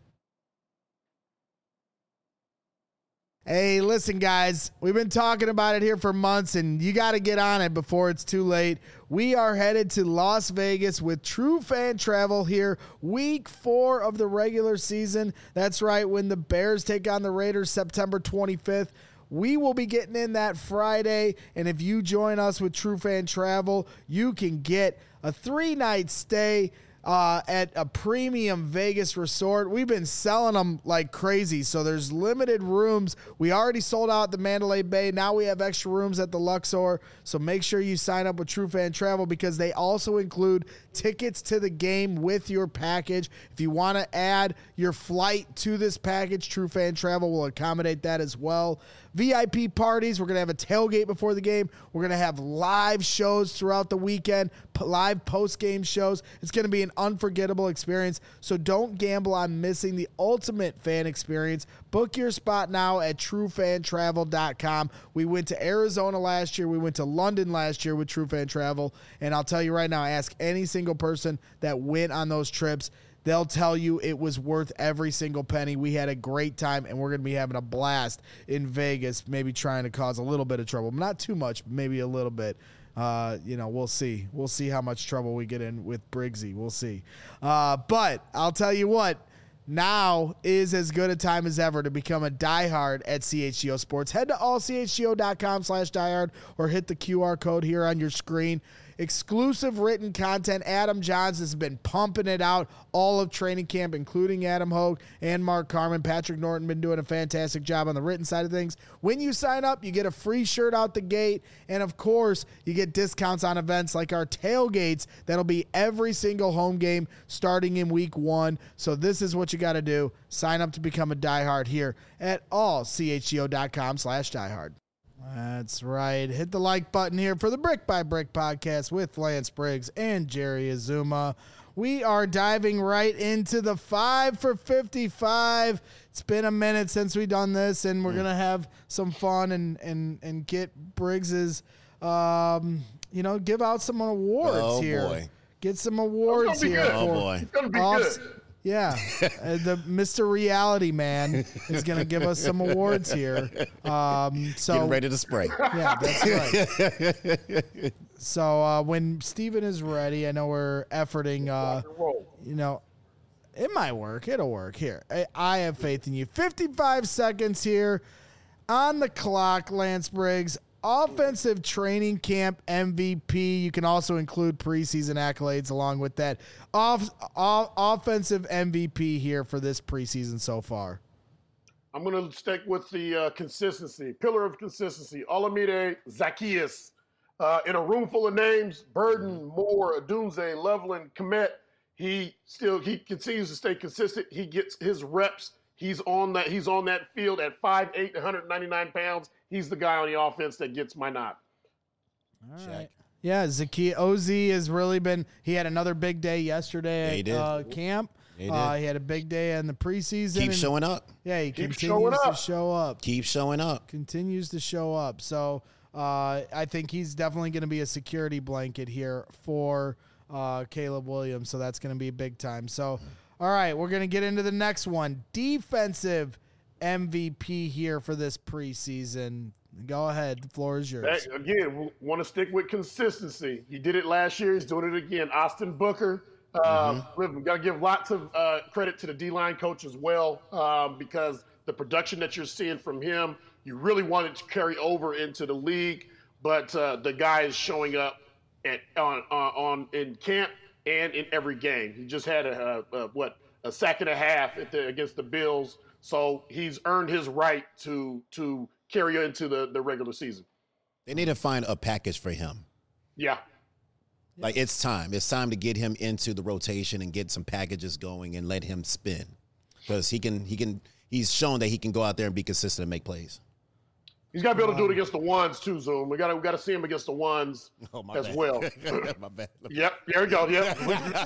Hey, listen, guys, we've been talking about it here for months, and you got to get on it before it's too late. We are headed to Las Vegas with True Fan Travel here, week four of the regular season. That's right, when the Bears take on the Raiders September twenty-fifth. We will be getting in that Friday, and if you join us with True Fan Travel, you can get a three-night stay Uh, at a premium Vegas resort. We've been selling them like crazy, so there's limited rooms. We already sold out the Mandalay Bay. Now we have extra rooms at the Luxor, so make sure you sign up with True Fan Travel, because they also include tickets to the game with your package. If you want to add your flight to this package, True Fan Travel will accommodate that as well. V I P parties. We're going to have a tailgate before the game. We're going to have live shows throughout the weekend, p- live post-game shows. It's going to be an unforgettable experience, so don't gamble on missing the ultimate fan experience. Book your spot now at true fan travel dot com. We went to Arizona last year. We went to London last year with True Fan Travel, and I'll tell you right now, ask any single person that went on those trips. They'll tell you it was worth every single penny. We had a great time, and we're going to be having a blast in Vegas, maybe trying to cause a little bit of trouble. Not too much, maybe a little bit. Uh, you know, we'll see. We'll see how much trouble we get in with Briggsy. We'll see. Uh, but I'll tell you what, now is as good a time as ever to become a diehard at C H G O Sports. Head to all C H G O dot com slash diehard or hit the Q R code here on your screen. exclusive written content. Adam Johns has been pumping it out all of training camp, including Adam Hogue and Mark Carman. Patrick Norton been doing a fantastic job on the written side of things. When you sign up, you get a free shirt out the gate. And of course, you get discounts on events like our tailgates. That'll be every single home game starting in week one. So this is what you got to do. Sign up to become a diehard here at all chgo.com slash diehard. That's right. Hit the like button here for the Brick by Brick podcast with Lance Briggs and Jerry Azuma. We are diving right into the five for fifty-five. It's been a minute since we've done this, and we're mm. going to have some fun and, and, and get Briggs's, um, you know, give out some awards oh, here. Boy. Get some awards here. Good. Oh, boy. It's going to be off- good. Yeah, uh, the Mister Reality Man is going to give us some awards here. Um, so Getting ready to spray. Yeah, that's right. So uh, when Steven is ready, I know we're efforting, uh, you know, it might work. It'll work. Here, I, I have faith in you. fifty-five seconds here on the clock, Lance Briggs. Offensive training camp M V P. You can also include preseason accolades along with that. Off, off, offensive M V P here for this preseason so far. I'm going to stick with the uh, consistency, pillar of consistency. Olamide Zaccheaus. Uh, in a room full of names, Burden, Moore, Adunze, Loveland, Komet, he still he continues to stay consistent. He gets his reps. He's on that. He's on that field at five eight, one hundred ninety-nine pounds. He's the guy on the offense that gets my nod. All right. Check. Yeah, Zaccheaus O Z has really been. He had another big day yesterday yeah, at uh, camp. He, uh, he had a big day in the preseason. Keep showing up. Yeah, he Keep continues to show up. Keep showing up. Continues to show up. So uh, I think he's definitely going to be a security blanket here for uh, Caleb Williams. So that's going to be big time. So, all right, we're going to get into the next one. Defensive M V P here for this preseason. Go ahead. The floor is yours. That, again, we want to stick with consistency. He did it last year. He's doing it again. Austin Booker. Uh, mm-hmm. We've got to give lots of uh, credit to the D-line coach as well um, because the production that you're seeing from him, you really want it to carry over into the league. But uh, the guy is showing up at on, on on in camp and in every game. He just had a, a, a what a sack and a half at the, against the Bills. So he's earned his right to to carry into the, the regular season. They need to find a package for him. Yeah. Like, it's time. It's time to get him into the rotation and get some packages going and let him spin. Because he can, he can, he's shown that he can go out there and be consistent and make plays. He's got to be able to do it against the ones too, Zoom. We got to we got to see him against the ones oh, as bad. well. my bad. Yep, there we go. Yep.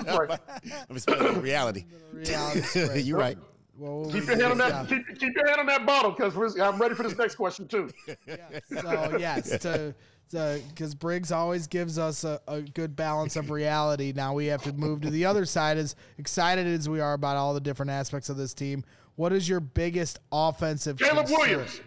I'm expecting reality. reality You're right. Well, keep your hand on that. Keep, keep your hand on that bottle because I'm ready for this next question too. Yeah, so yes, to because Briggs always gives us a, a good balance of reality. Now we have to move to the other side. As excited as we are about all the different aspects of this team, what is your biggest offensive? Caleb concern? Williams.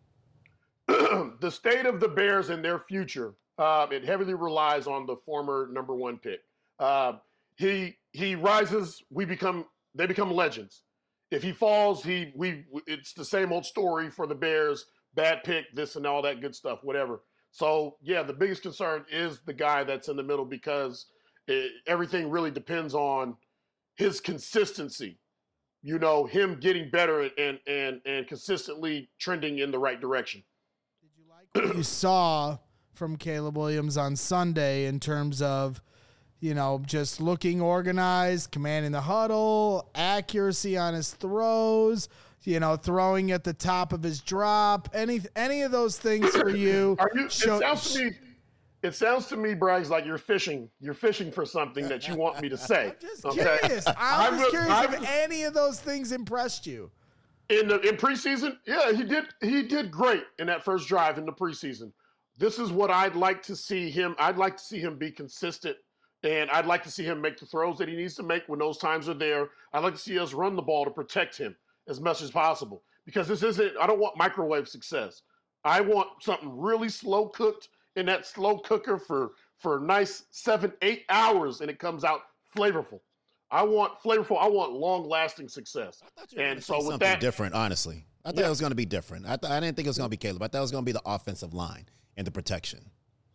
The state of the Bears and their future, uh, it heavily relies on the former number one pick. Uh, he he rises, we become they become legends. If he falls, he we it's the same old story for the Bears. Bad pick, this and all that good stuff, whatever. So yeah, the biggest concern is the guy that's in the middle because it, everything really depends on his consistency. You know, him getting better and and and consistently trending in the right direction. You saw from Caleb Williams on Sunday in terms of, you know, just looking organized, commanding the huddle, accuracy on his throws, you know, throwing at the top of his drop, any any of those things for you. Are you show, it sounds to me it sounds to me, Braggs, like you're fishing. You're fishing for something that you want me to say. I'm just okay? curious. I'm, I'm just curious I'm, if any of those things impressed you. In the in preseason, yeah, he did he did great in that first drive in the preseason. This is what I'd like to see him. I'd like to see him be consistent, and I'd like to see him make the throws that he needs to make when those times are there. I'd like to see us run the ball to protect him as much as possible because this isn't. I don't want microwave success. I want something really slow cooked in that slow cooker for for nice seven eight hours, and it comes out flavorful. I want flavorful. I want long-lasting success. And so with something that, different, honestly, I thought yeah. it was going to be different. I, th- I didn't think it was going to be Caleb. I thought it was going to be the offensive line and the protection. No,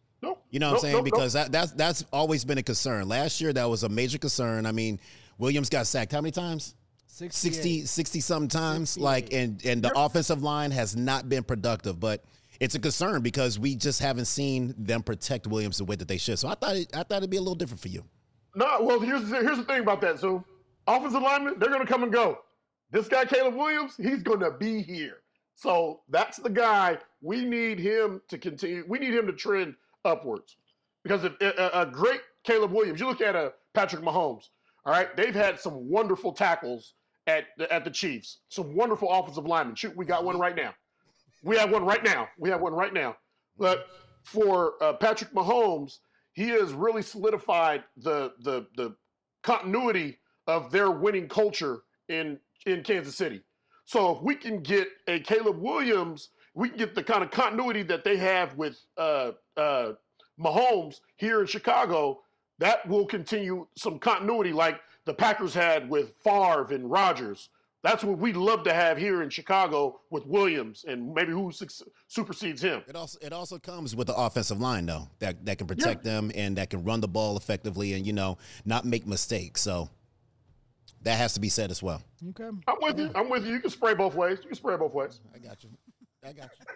You know what Nope, I'm saying? nope, Because nope. that, that's that's always been a concern. Last year, that was a major concern. I mean, Williams got sacked how many times? sixty, sixty some times. Like, and, and the Yep. offensive line has not been productive. But it's a concern because we just haven't seen them protect Williams the way that they should. So I thought it, I thought it'd be a little different for you. No, well, here's the, here's the thing about that, Zoom. Offensive linemen, they're going to come and go. This guy, Caleb Williams, he's going to be here. So that's the guy. We need him to continue. We need him to trend upwards. Because if a, a great Caleb Williams, you look at a Patrick Mahomes, all right, they've had some wonderful tackles at the, at the Chiefs, some wonderful offensive linemen. Shoot, we got one right now. We have one right now. We have one right now. But for uh, Patrick Mahomes, he has really solidified the the the continuity of their winning culture in in Kansas City. So if we can get a Caleb Williams, we can get the kind of continuity that they have with uh, uh, Mahomes here in Chicago. That will continue some continuity like the Packers had with Favre and Rodgers. That's what we'd love to have here in Chicago with Williams and maybe who su- supersedes him. It also it also comes with the offensive line though that that can protect Yeah. them and that can run the ball effectively and you know not make mistakes. So that has to be said as well. Okay. I'm with you. I'm with you. You can spray both ways. You can spray both ways. I got you. I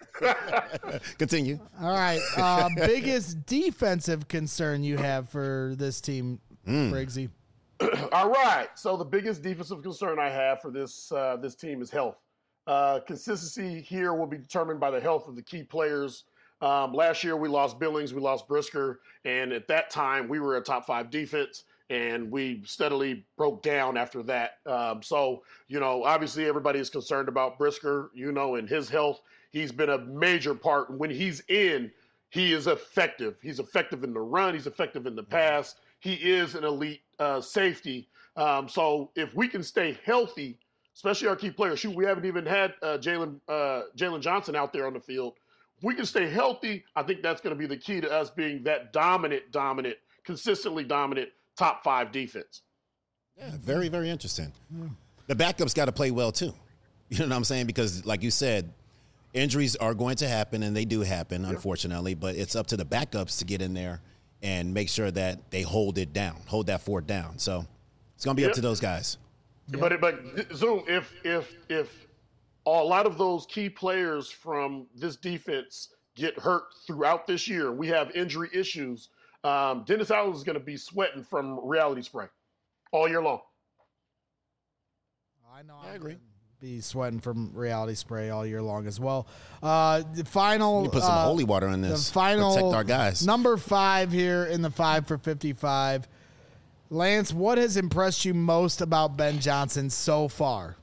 got you. Continue. All right. Uh, biggest defensive concern you have for this team, Mm. Briggsy? All right. So the biggest defensive concern I have for this uh, this team is health. Uh, consistency here will be determined by the health of the key players. Um, last year we lost Billings, we lost Brisker, and at that time we were a top five defense, and we steadily broke down after that. Um, so you know, obviously everybody is concerned about Brisker, you know, and his health. He's been a major part. When he's in, he is effective. He's effective in the run. He's effective in the pass. He is an elite uh, safety. Um, so if we can stay healthy, especially our key players, shoot, we haven't even had uh, Jalen uh, Jalen Johnson out there on the field. If we can stay healthy, I think that's going to be the key to us being that dominant, dominant, consistently dominant top five defense. Yeah, very very interesting. The backups got to play well too. You know what I'm saying? Because like you said, injuries are going to happen, and they do happen, unfortunately. But it's up to the backups to get in there and make sure that they hold it down, hold that fort down. So it's going to be Yep. up to those guys. But but Zoom, if if if a lot of those key players from this defense get hurt throughout this year, we have injury issues. Um, Dennis Allen is going to be sweating from reality spray all year long. I know. I I'm agree. gonna Be sweating from reality spray all year long as well. Uh, the final. We put some uh, holy water in The this. final Protect our guys. number five here in the five for fifty-five. Lance, what has impressed you most about Ben Johnson so far?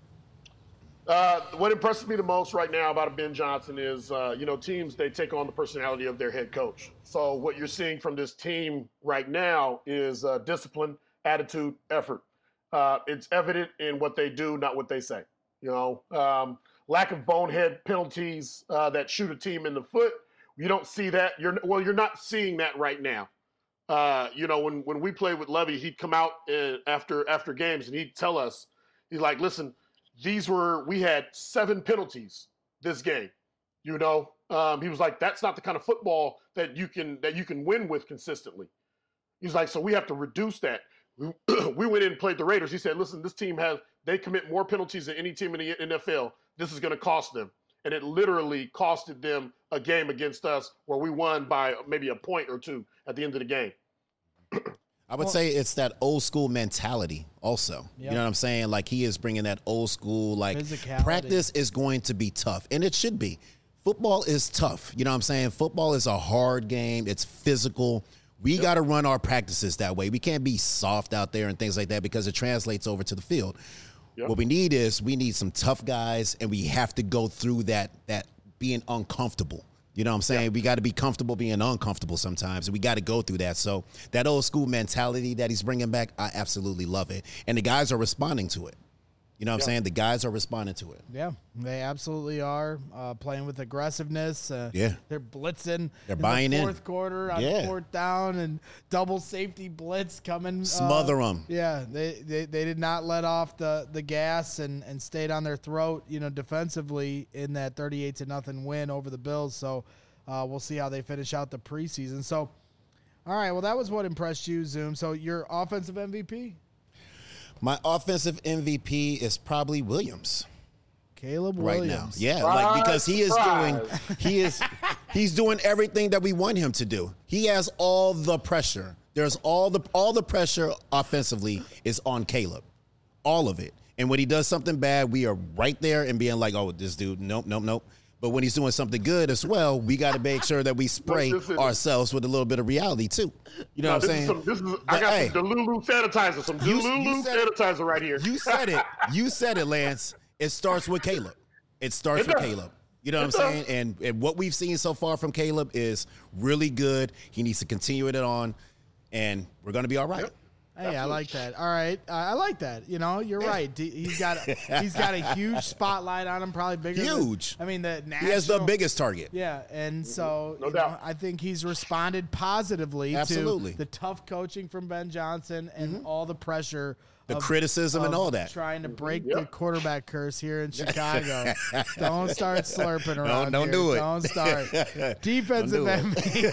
Uh, what impresses me the most right now about Ben Johnson is, uh, you know, teams, they take on the personality of their head coach. So what you're seeing from this team right now is uh, discipline, attitude, effort. Uh, it's evident in what they do, not what they say. You know, um, lack of bonehead penalties uh, that shoot a team in the foot. You don't see that. You're well, you're not seeing that right now. Uh, you know, when when we played with Levy, he'd come out uh, after after games and he'd tell us, he's like, listen, these were we had seven penalties this game. You know, um, he was like, that's not the kind of football that you can that you can win with consistently. He's like, so we have to reduce that. We, we went in and played the Raiders. He said, listen, this team has they commit more penalties than any team in the N F L. This is going to cost them. And it literally costed them a game against us where we won by maybe a point or two at the end of the game. I would say it's that old school mentality also. Yep. You know what I'm saying? Like he is bringing that old school, like Physicality. practice is going to be tough, and it should be. Football is tough. You know what I'm saying? Football is a hard game. It's physical. We got to run our practices that way. We can't be soft out there and things like that because it translates over to the field. Yep. What we need is we need some tough guys, and we have to go through that that being uncomfortable. You know what I'm saying? Yeah. We got to be comfortable being uncomfortable sometimes, and we got to go through that. So that old school mentality that he's bringing back, I absolutely love it. And the guys are responding to it. You know what I'm Yeah. saying? The guys are responding to it. Yeah, they absolutely are uh, playing with aggressiveness. Uh, Yeah. they're blitzing. They're in buying the in. fourth quarter on Yeah. fourth down and double safety blitz coming. Smother uh, 'em. Yeah, they, they they did not let off the, the gas and, and stayed on their throat. You know, defensively in that thirty-eight to nothing win over the Bills. So. uh, we'll see how they finish out the preseason. So, all right, well, that was what impressed you, Zoom. So your offensive M V P? My offensive M V P is probably Williams. Caleb right Williams. now. Yeah, Surprise, like because he is surprise. doing he is he's doing everything that we want him to do. He has all the pressure. There's all the all the pressure offensively is on Caleb. All of it. And when he does something bad, we are right there and being like, "Oh, this dude, nope, nope, nope." But when he's doing something good as well, we got to make sure that we spray Look, this is- ourselves with a little bit of reality too. You know No, what I'm this saying? is some, this is But, I got hey, some Delulu sanitizer, some You- you Delulu said it. sanitizer right here. You said it. You said it, Lance. It starts with Caleb. It starts It with does. Caleb. You know what It I'm does. saying? And and what we've seen so far from Caleb is really good. He needs to continue it on, and we're going to be all right. Yep. Hey, I like that. All right, uh, I like that. You know, you're right. D- He's got a, he's got a huge spotlight on him, probably bigger. than- Huge. I mean, the national, He has the biggest target. Yeah, and so No you doubt. know, I think he's responded positively Absolutely. to the tough coaching from Ben Johnson and all the pressure, The of- criticism and of all that. trying to break Yep. the quarterback curse here in Chicago. Don't start slurping around. don't here. do it. Don't start. Defensive Don't do it. M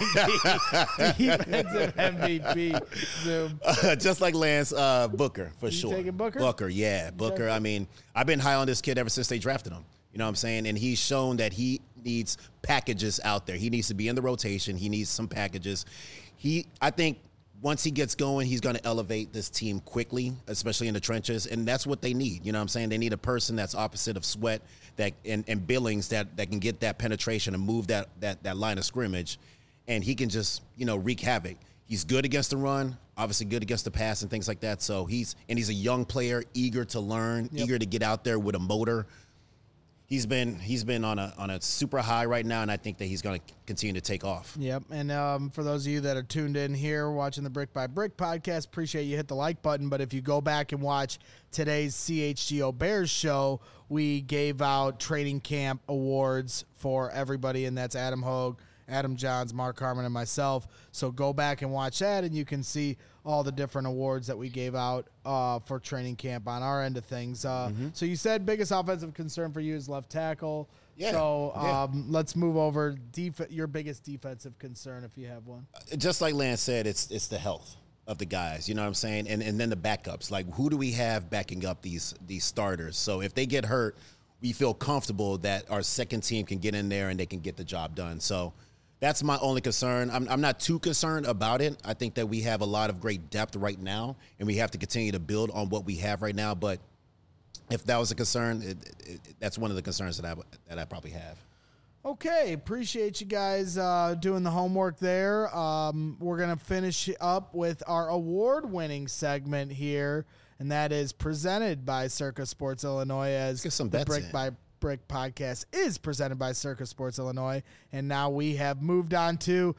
V P. Defensive M V P. Zoom. Just like Lance uh, Booker, for sure. taking Booker? Booker, yeah. Booker, I mean, I've been high on this kid ever since they drafted him. You know what I'm saying? And he's shown that he needs packages out there. He needs to be in the rotation. He needs some packages. He, I think once he gets going, he's going to elevate this team quickly, especially in the trenches. And that's what they need. You know what I'm saying? They need a person that's opposite of Sweat that and, and Billings that, that can get that penetration and move that, that, that line of scrimmage. And he can just, you know, wreak havoc. He's good against the run, obviously good against the pass and things like that. So he's and he's a young player, eager to learn, Yep. eager to get out there with a motor. He's been he's been on a on a super high right now, and I think that he's going to continue to take off. Yep. And um, for those of you that are tuned in here watching the Brick by Brick podcast, appreciate you hit the like button. But if you go back and watch today's C H G O Bears show, we gave out training camp awards for everybody, and that's Adam Hogue, Adam Johns, Mark Harmon, and myself. So go back and watch that, and you can see all the different awards that we gave out uh, for training camp on our end of things. Uh, So you said biggest offensive concern for you is left tackle. Yeah. So Yeah. um, let's move over. Def- your biggest defensive concern, if you have one. Just like Lance said, it's it's the health of the guys. You know what I'm saying? And and then the backups. Like, who do we have backing up these these starters? So if they get hurt, we feel comfortable that our second team can get in there and they can get the job done. So that's my only concern. I'm, I'm not too concerned about it. I think that we have a lot of great depth right now, and we have to continue to build on what we have right now. But if that was a concern, it, it, that's one of the concerns that I that I probably have. Okay, appreciate you guys uh, doing the homework there. Um, we're going to finish up with our award-winning segment here, and that is presented by Circa Sports Illinois, as get some the bets Brick in. by Brick podcast is presented by Circa Sports Illinois. And now we have moved on to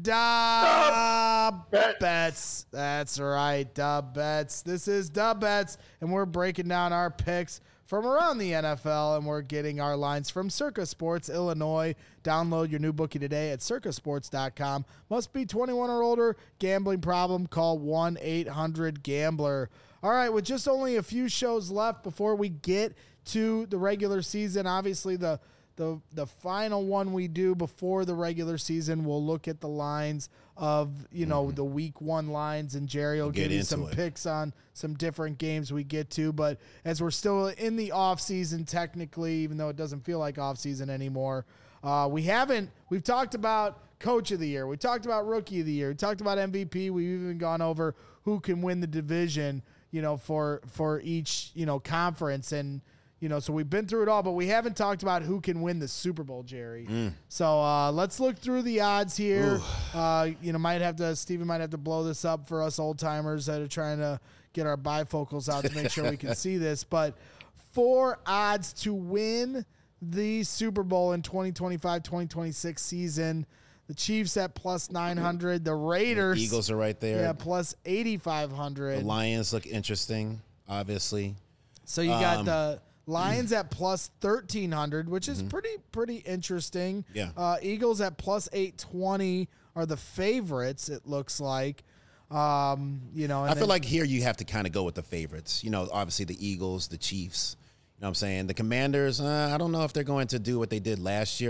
Dub Bets. Bets. That's right, Dub Bets. This is Dub Bets, and we're breaking down our picks from around the N F L, and we're getting our lines from Circa Sports Illinois. Download your new bookie today at circa sports dot com. Must be twenty-one or older. Gambling problem? Call one eight hundred gambler. All right, with just only a few shows left before we get to the regular season, obviously the the the final one we do before the regular season, we'll look at the lines of, you know, mm-hmm. the week one lines, and Jerry will Get give you into some it. picks on some different games we get to. But as we're still in the off season, technically, even though it doesn't feel like off season anymore, uh, we haven't, we've talked about coach of the year. We talked about rookie of the year. We talked about M V P. We've even gone over who can win the division, you know, for, for each, you know, conference. And, you know, so we've been through it all, but we haven't talked about who can win the Super Bowl, Jerry. Mm. So uh, let's look through the odds here. Uh, you know, might have to, Steven might have to blow this up for us old timers that are trying to get our bifocals out to make sure we can see this. But four odds to win the Super Bowl in twenty twenty-five twenty twenty-six season. The Chiefs at plus nine hundred. The Raiders. The Eagles are right there. Yeah, plus eighty-five hundred. The Lions look interesting, obviously. So you got Um, the Lions at plus thirteen hundred, which is pretty pretty interesting. Yeah. Uh, Eagles at plus eight twenty are the favorites, it looks like. Um, you know, and I then, feel like here you have to kind of go with the favorites. You know, obviously the Eagles, the Chiefs. You know what I'm saying? The Commanders, uh, I don't know if they're going to do what they did last year.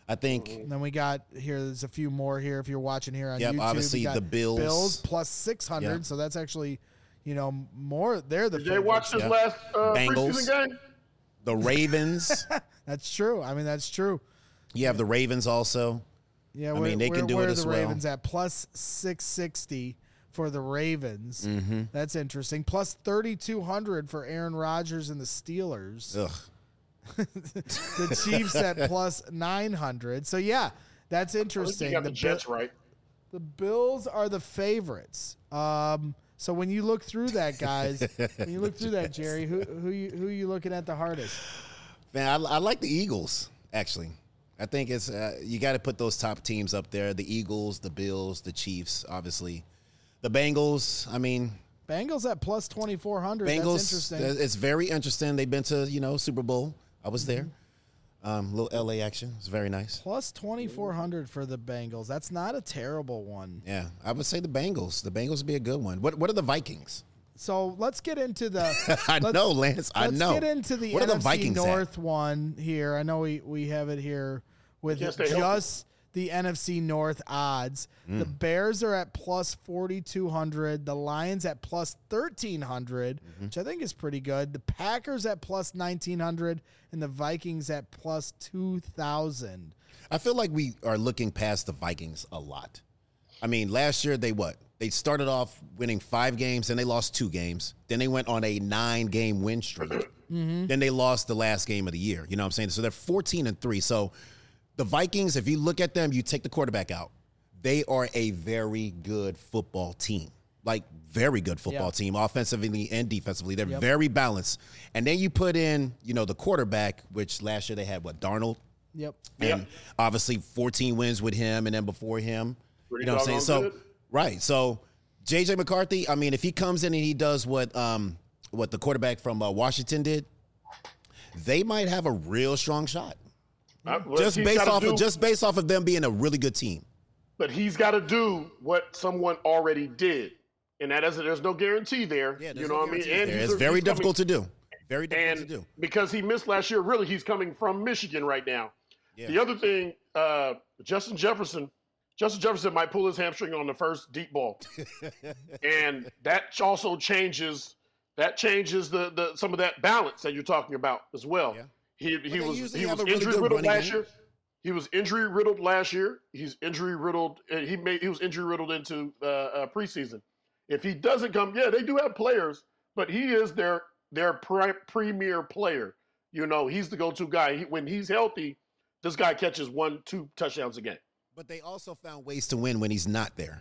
I think. And then we got here. There's a few more here. If you're watching here on Yep, YouTube, obviously we got the Bills. Bills plus six hundred. Yep. So that's actually, you know, more. They're the. Did they watch this Yep. last uh, Bengals. preseason game? The Ravens. That's true. I mean, that's true. You have the Ravens also. Yeah, I where, mean, they where, can do where it are as the well. Ravens at plus six sixty for the Ravens. Mm-hmm. That's interesting. Plus thirty-two hundred for Aaron Rodgers and the Steelers. Ugh. The Chiefs at plus nine hundred. So, yeah, that's I think interesting. you got the, The Bi- Jets right. The Bills are the favorites. Um, so when you look through that, guys, when you look through that, Jerry, who who you who you looking at the hardest? Man, I, I like the Eagles, actually. I think it's uh, you got to put those top teams up there. The Eagles, the Bills, the Chiefs, obviously. The Bengals, I mean. Bengals at plus twenty-four hundred. Bengals, That's interesting. it's very interesting. They've been to, you know, Super Bowl. I was there. Mm-hmm. Um, little L A action. It's very nice. Plus twenty-four hundred for the Bengals. That's not a terrible one. Yeah, I would say the Bengals. The Bengals would be a good one. What What are the Vikings? So let's get into the. I let's- know, Lance. I Let's know. get into the what N F C are the Vikings North at? one here. I know we, we have it here with Can't stay healthy. just the N F C North odds. Mm. The Bears are at plus forty-two hundred. The Lions at plus thirteen hundred, Mm-hmm. which I think is pretty good. The Packers at plus nineteen hundred and the Vikings at plus two thousand. I feel like we are looking past the Vikings a lot. I mean, last year they what? They started off winning five games, then they lost two games. Then they went on a nine-game win streak. Mm-hmm. Then they lost the last game of the year. You know what I'm saying? So they're fourteen and three. So the Vikings, if you look at them, you take the quarterback out. They are a very good football team. Like, very good football Yeah. team, offensively and defensively. They're Yep. very balanced. And then you put in, you know, the quarterback, which last year they had, what, Darnold? Yep. And Yep. obviously fourteen wins with him and then before him. Pretty you know what I'm saying? So, doggone good. right. So, J J McCarthy, I mean, if he comes in and he does what um, what the quarterback from uh, Washington did, they might have a real strong shot. Uh, well, Just he's based gotta off do- of just based off of them being a really good team. But he's got to do what someone already did, and that is there's no guarantee there. you know what I mean? And There. he's It's a- very he's coming- difficult to do. Very difficult and to do. because he missed last year, really, he's coming from Michigan right now. Yeah. The other thing, uh, Justin Jefferson, Justin Jefferson might pull his hamstring on the first deep ball, and that also changes that changes the the some of that balance that you're talking about as well. Yeah. He they he was usually he have was a really injury good riddled running last game. year. He was injury riddled last year. He's injury riddled. uh, He made he was injury riddled into uh, uh, preseason. If he doesn't come, yeah, they do have players, but he is their their pri- premier player. You know, he's the go-to guy. He, when he's healthy, this guy catches one, two touchdowns a game. But they also found ways to win when he's not there.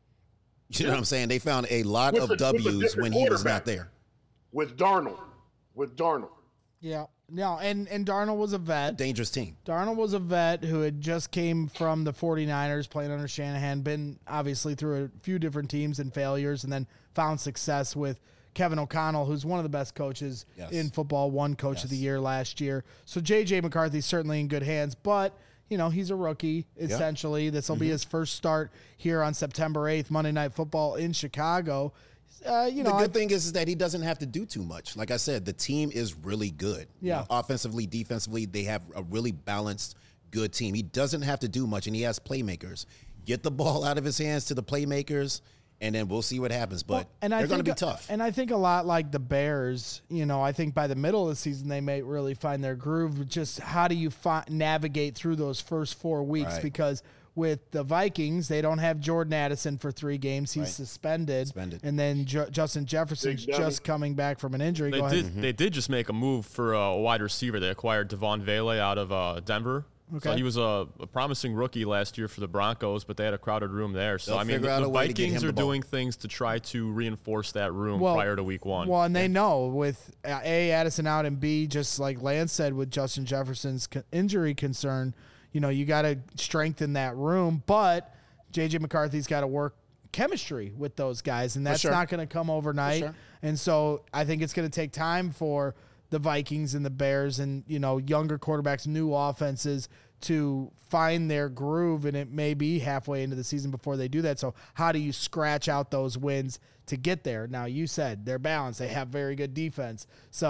You know what I'm saying? They found a lot With of a- with a W's different when he was quarterback. not there. With Darnold, with Darnold, Yeah. No, and, and Darnold was a vet. Dangerous team. Darnold was a vet who had just came from the 49ers playing under Shanahan, been obviously through a few different teams and failures, and then found success with Kevin O'Connell, who's one of the best coaches Yes. in football, won Coach of the Yes. Year last year. So J J McCarthy's certainly in good hands, but, you know, he's a rookie, essentially. This will Mm-hmm. be his first start here on September eighth, Monday Night Football in Chicago. Uh, you know, the I good thing is, is that he doesn't have to do too much. Like I said, the team is really good. You Yeah. know, offensively, defensively, they have a really balanced, good team. He doesn't have to do much, and he has playmakers. Get the ball out of his hands to the playmakers, and then we'll see what happens. But and I they're going to think- be tough. And I think a lot like the Bears, you know, I think by the middle of the season they may really find their groove. Just how do you fi- navigate through those first four weeks? Right. Because with the Vikings, they don't have Jordan Addison for three games. He's Right. suspended. Suspended. And then Ju- Justin Jefferson's Big dummy. just coming back from an injury. They Go did. ahead. They did just make a move for a wide receiver. They acquired Devon Vele out of uh, Denver. So Okay. he was a, a promising rookie last year for the Broncos, but they had a crowded room there. So They'll I mean, figure the, out the a way to get Vikings him are the ball. doing things to try to reinforce that room Well- prior to Week One. Well, and they know with uh, A, Addison out, and B, just like Lance said with Justin Jefferson's co- injury concern, you know, you got to strengthen that room. But J J McCarthy's got to work chemistry with those guys, and that's sure. not going to come overnight. sure. And so I think it's going to take time for the Vikings and the Bears and, you know, younger quarterbacks, new offenses to find their groove, and it may be halfway into the season before they do that. So how do you scratch out those wins to get there? Now, you said they're balanced. They have very good defense. So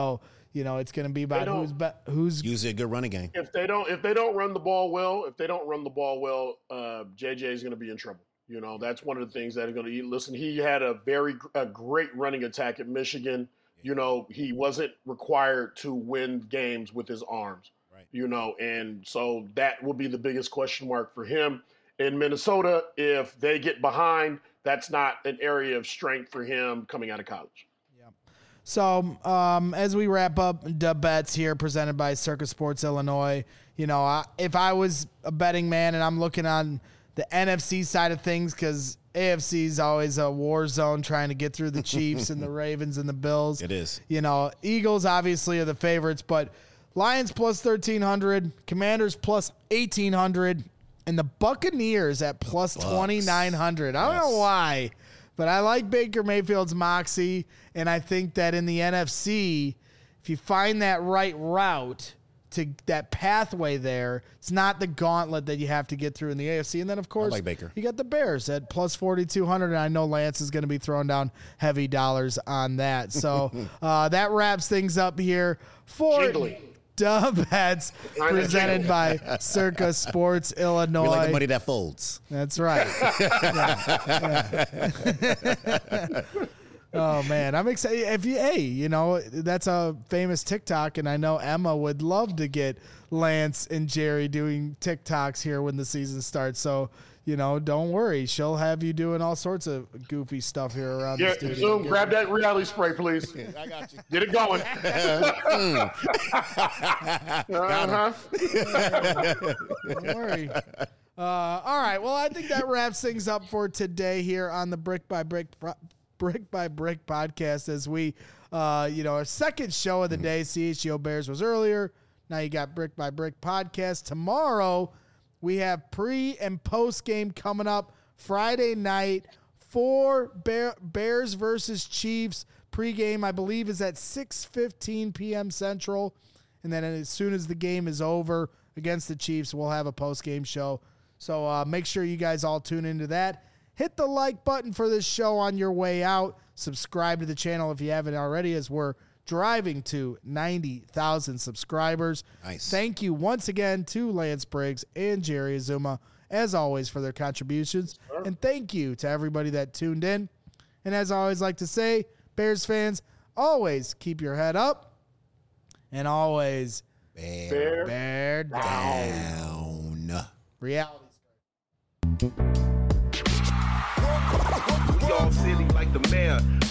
you know, it's going to be about don't- who's be, who's Usually a good running game. If they don't, if they don't run the ball well, if they don't run the ball well, uh, J J is going to be in trouble. You know, that's one of the things that are going to. Listen, he had a very a great running attack at Michigan. You know, he wasn't required to win games with his arms. Right. You know, and so that will be the biggest question mark for him in Minnesota. If they get behind, that's not an area of strength for him coming out of college. So, um, as we wrap up the bets here presented by Circus Sports Illinois, you know, I, if I was a betting man and I'm looking on the N F C side of things, because A F C is always a war zone trying to get through the Chiefs and the Ravens and the Bills. It is. You know, Eagles obviously are the favorites, but Lions plus thirteen hundred, Commanders plus eighteen hundred, and the Buccaneers at plus twenty-nine hundred. I don't Yes. know why, but I like Baker Mayfield's moxie, and I think that in the N F C, if you find that right route to that pathway there, it's not the gauntlet that you have to get through in the A F C. And then, of course, like Baker. you got the Bears at plus forty-two hundred, and I know Lance is going to be throwing down heavy dollars on that. So uh, that wraps things up here for Jingly. Dub Bets Kinda presented jingly. by Circa Sports Illinois. We like the money that folds. That's right. Yeah, yeah. Oh man, I'm excited. If you, hey, you know, that's a famous TikTok, and I know Emma would love to get Lance and Jerry doing TikToks here when the season starts. So, you know, don't worry, she'll have you doing all sorts of goofy stuff here around Yeah, the studio. Zoom, grab that reality spray, please. I got you. Get it going. uh-huh. Don't worry. Uh, all right. Well, I think that wraps things up for today here on the Brick by Brick Pro- Brick by Brick podcast. As we, uh, you know, our second show of the day, C H G O Bears was earlier. Now you got Brick by Brick podcast. Tomorrow we have pre and post game coming up Friday night for Bear, Bears versus Chiefs. Pregame, I believe, is at six fifteen p.m. Central. And then as soon as the game is over against the Chiefs, we'll have a post-game show. So uh, make sure you guys all tune into that. Hit the like button for this show on your way out. Subscribe to the channel if you haven't already, as we're driving to ninety thousand subscribers. Nice. Thank you once again to Lance Briggs and Jerry Azuma, as always, for their contributions. And thank you to everybody that tuned in. And as I always like to say, Bears fans, always keep your head up and always Bear Bear bear down. down. Reality. We all silly like the mayor.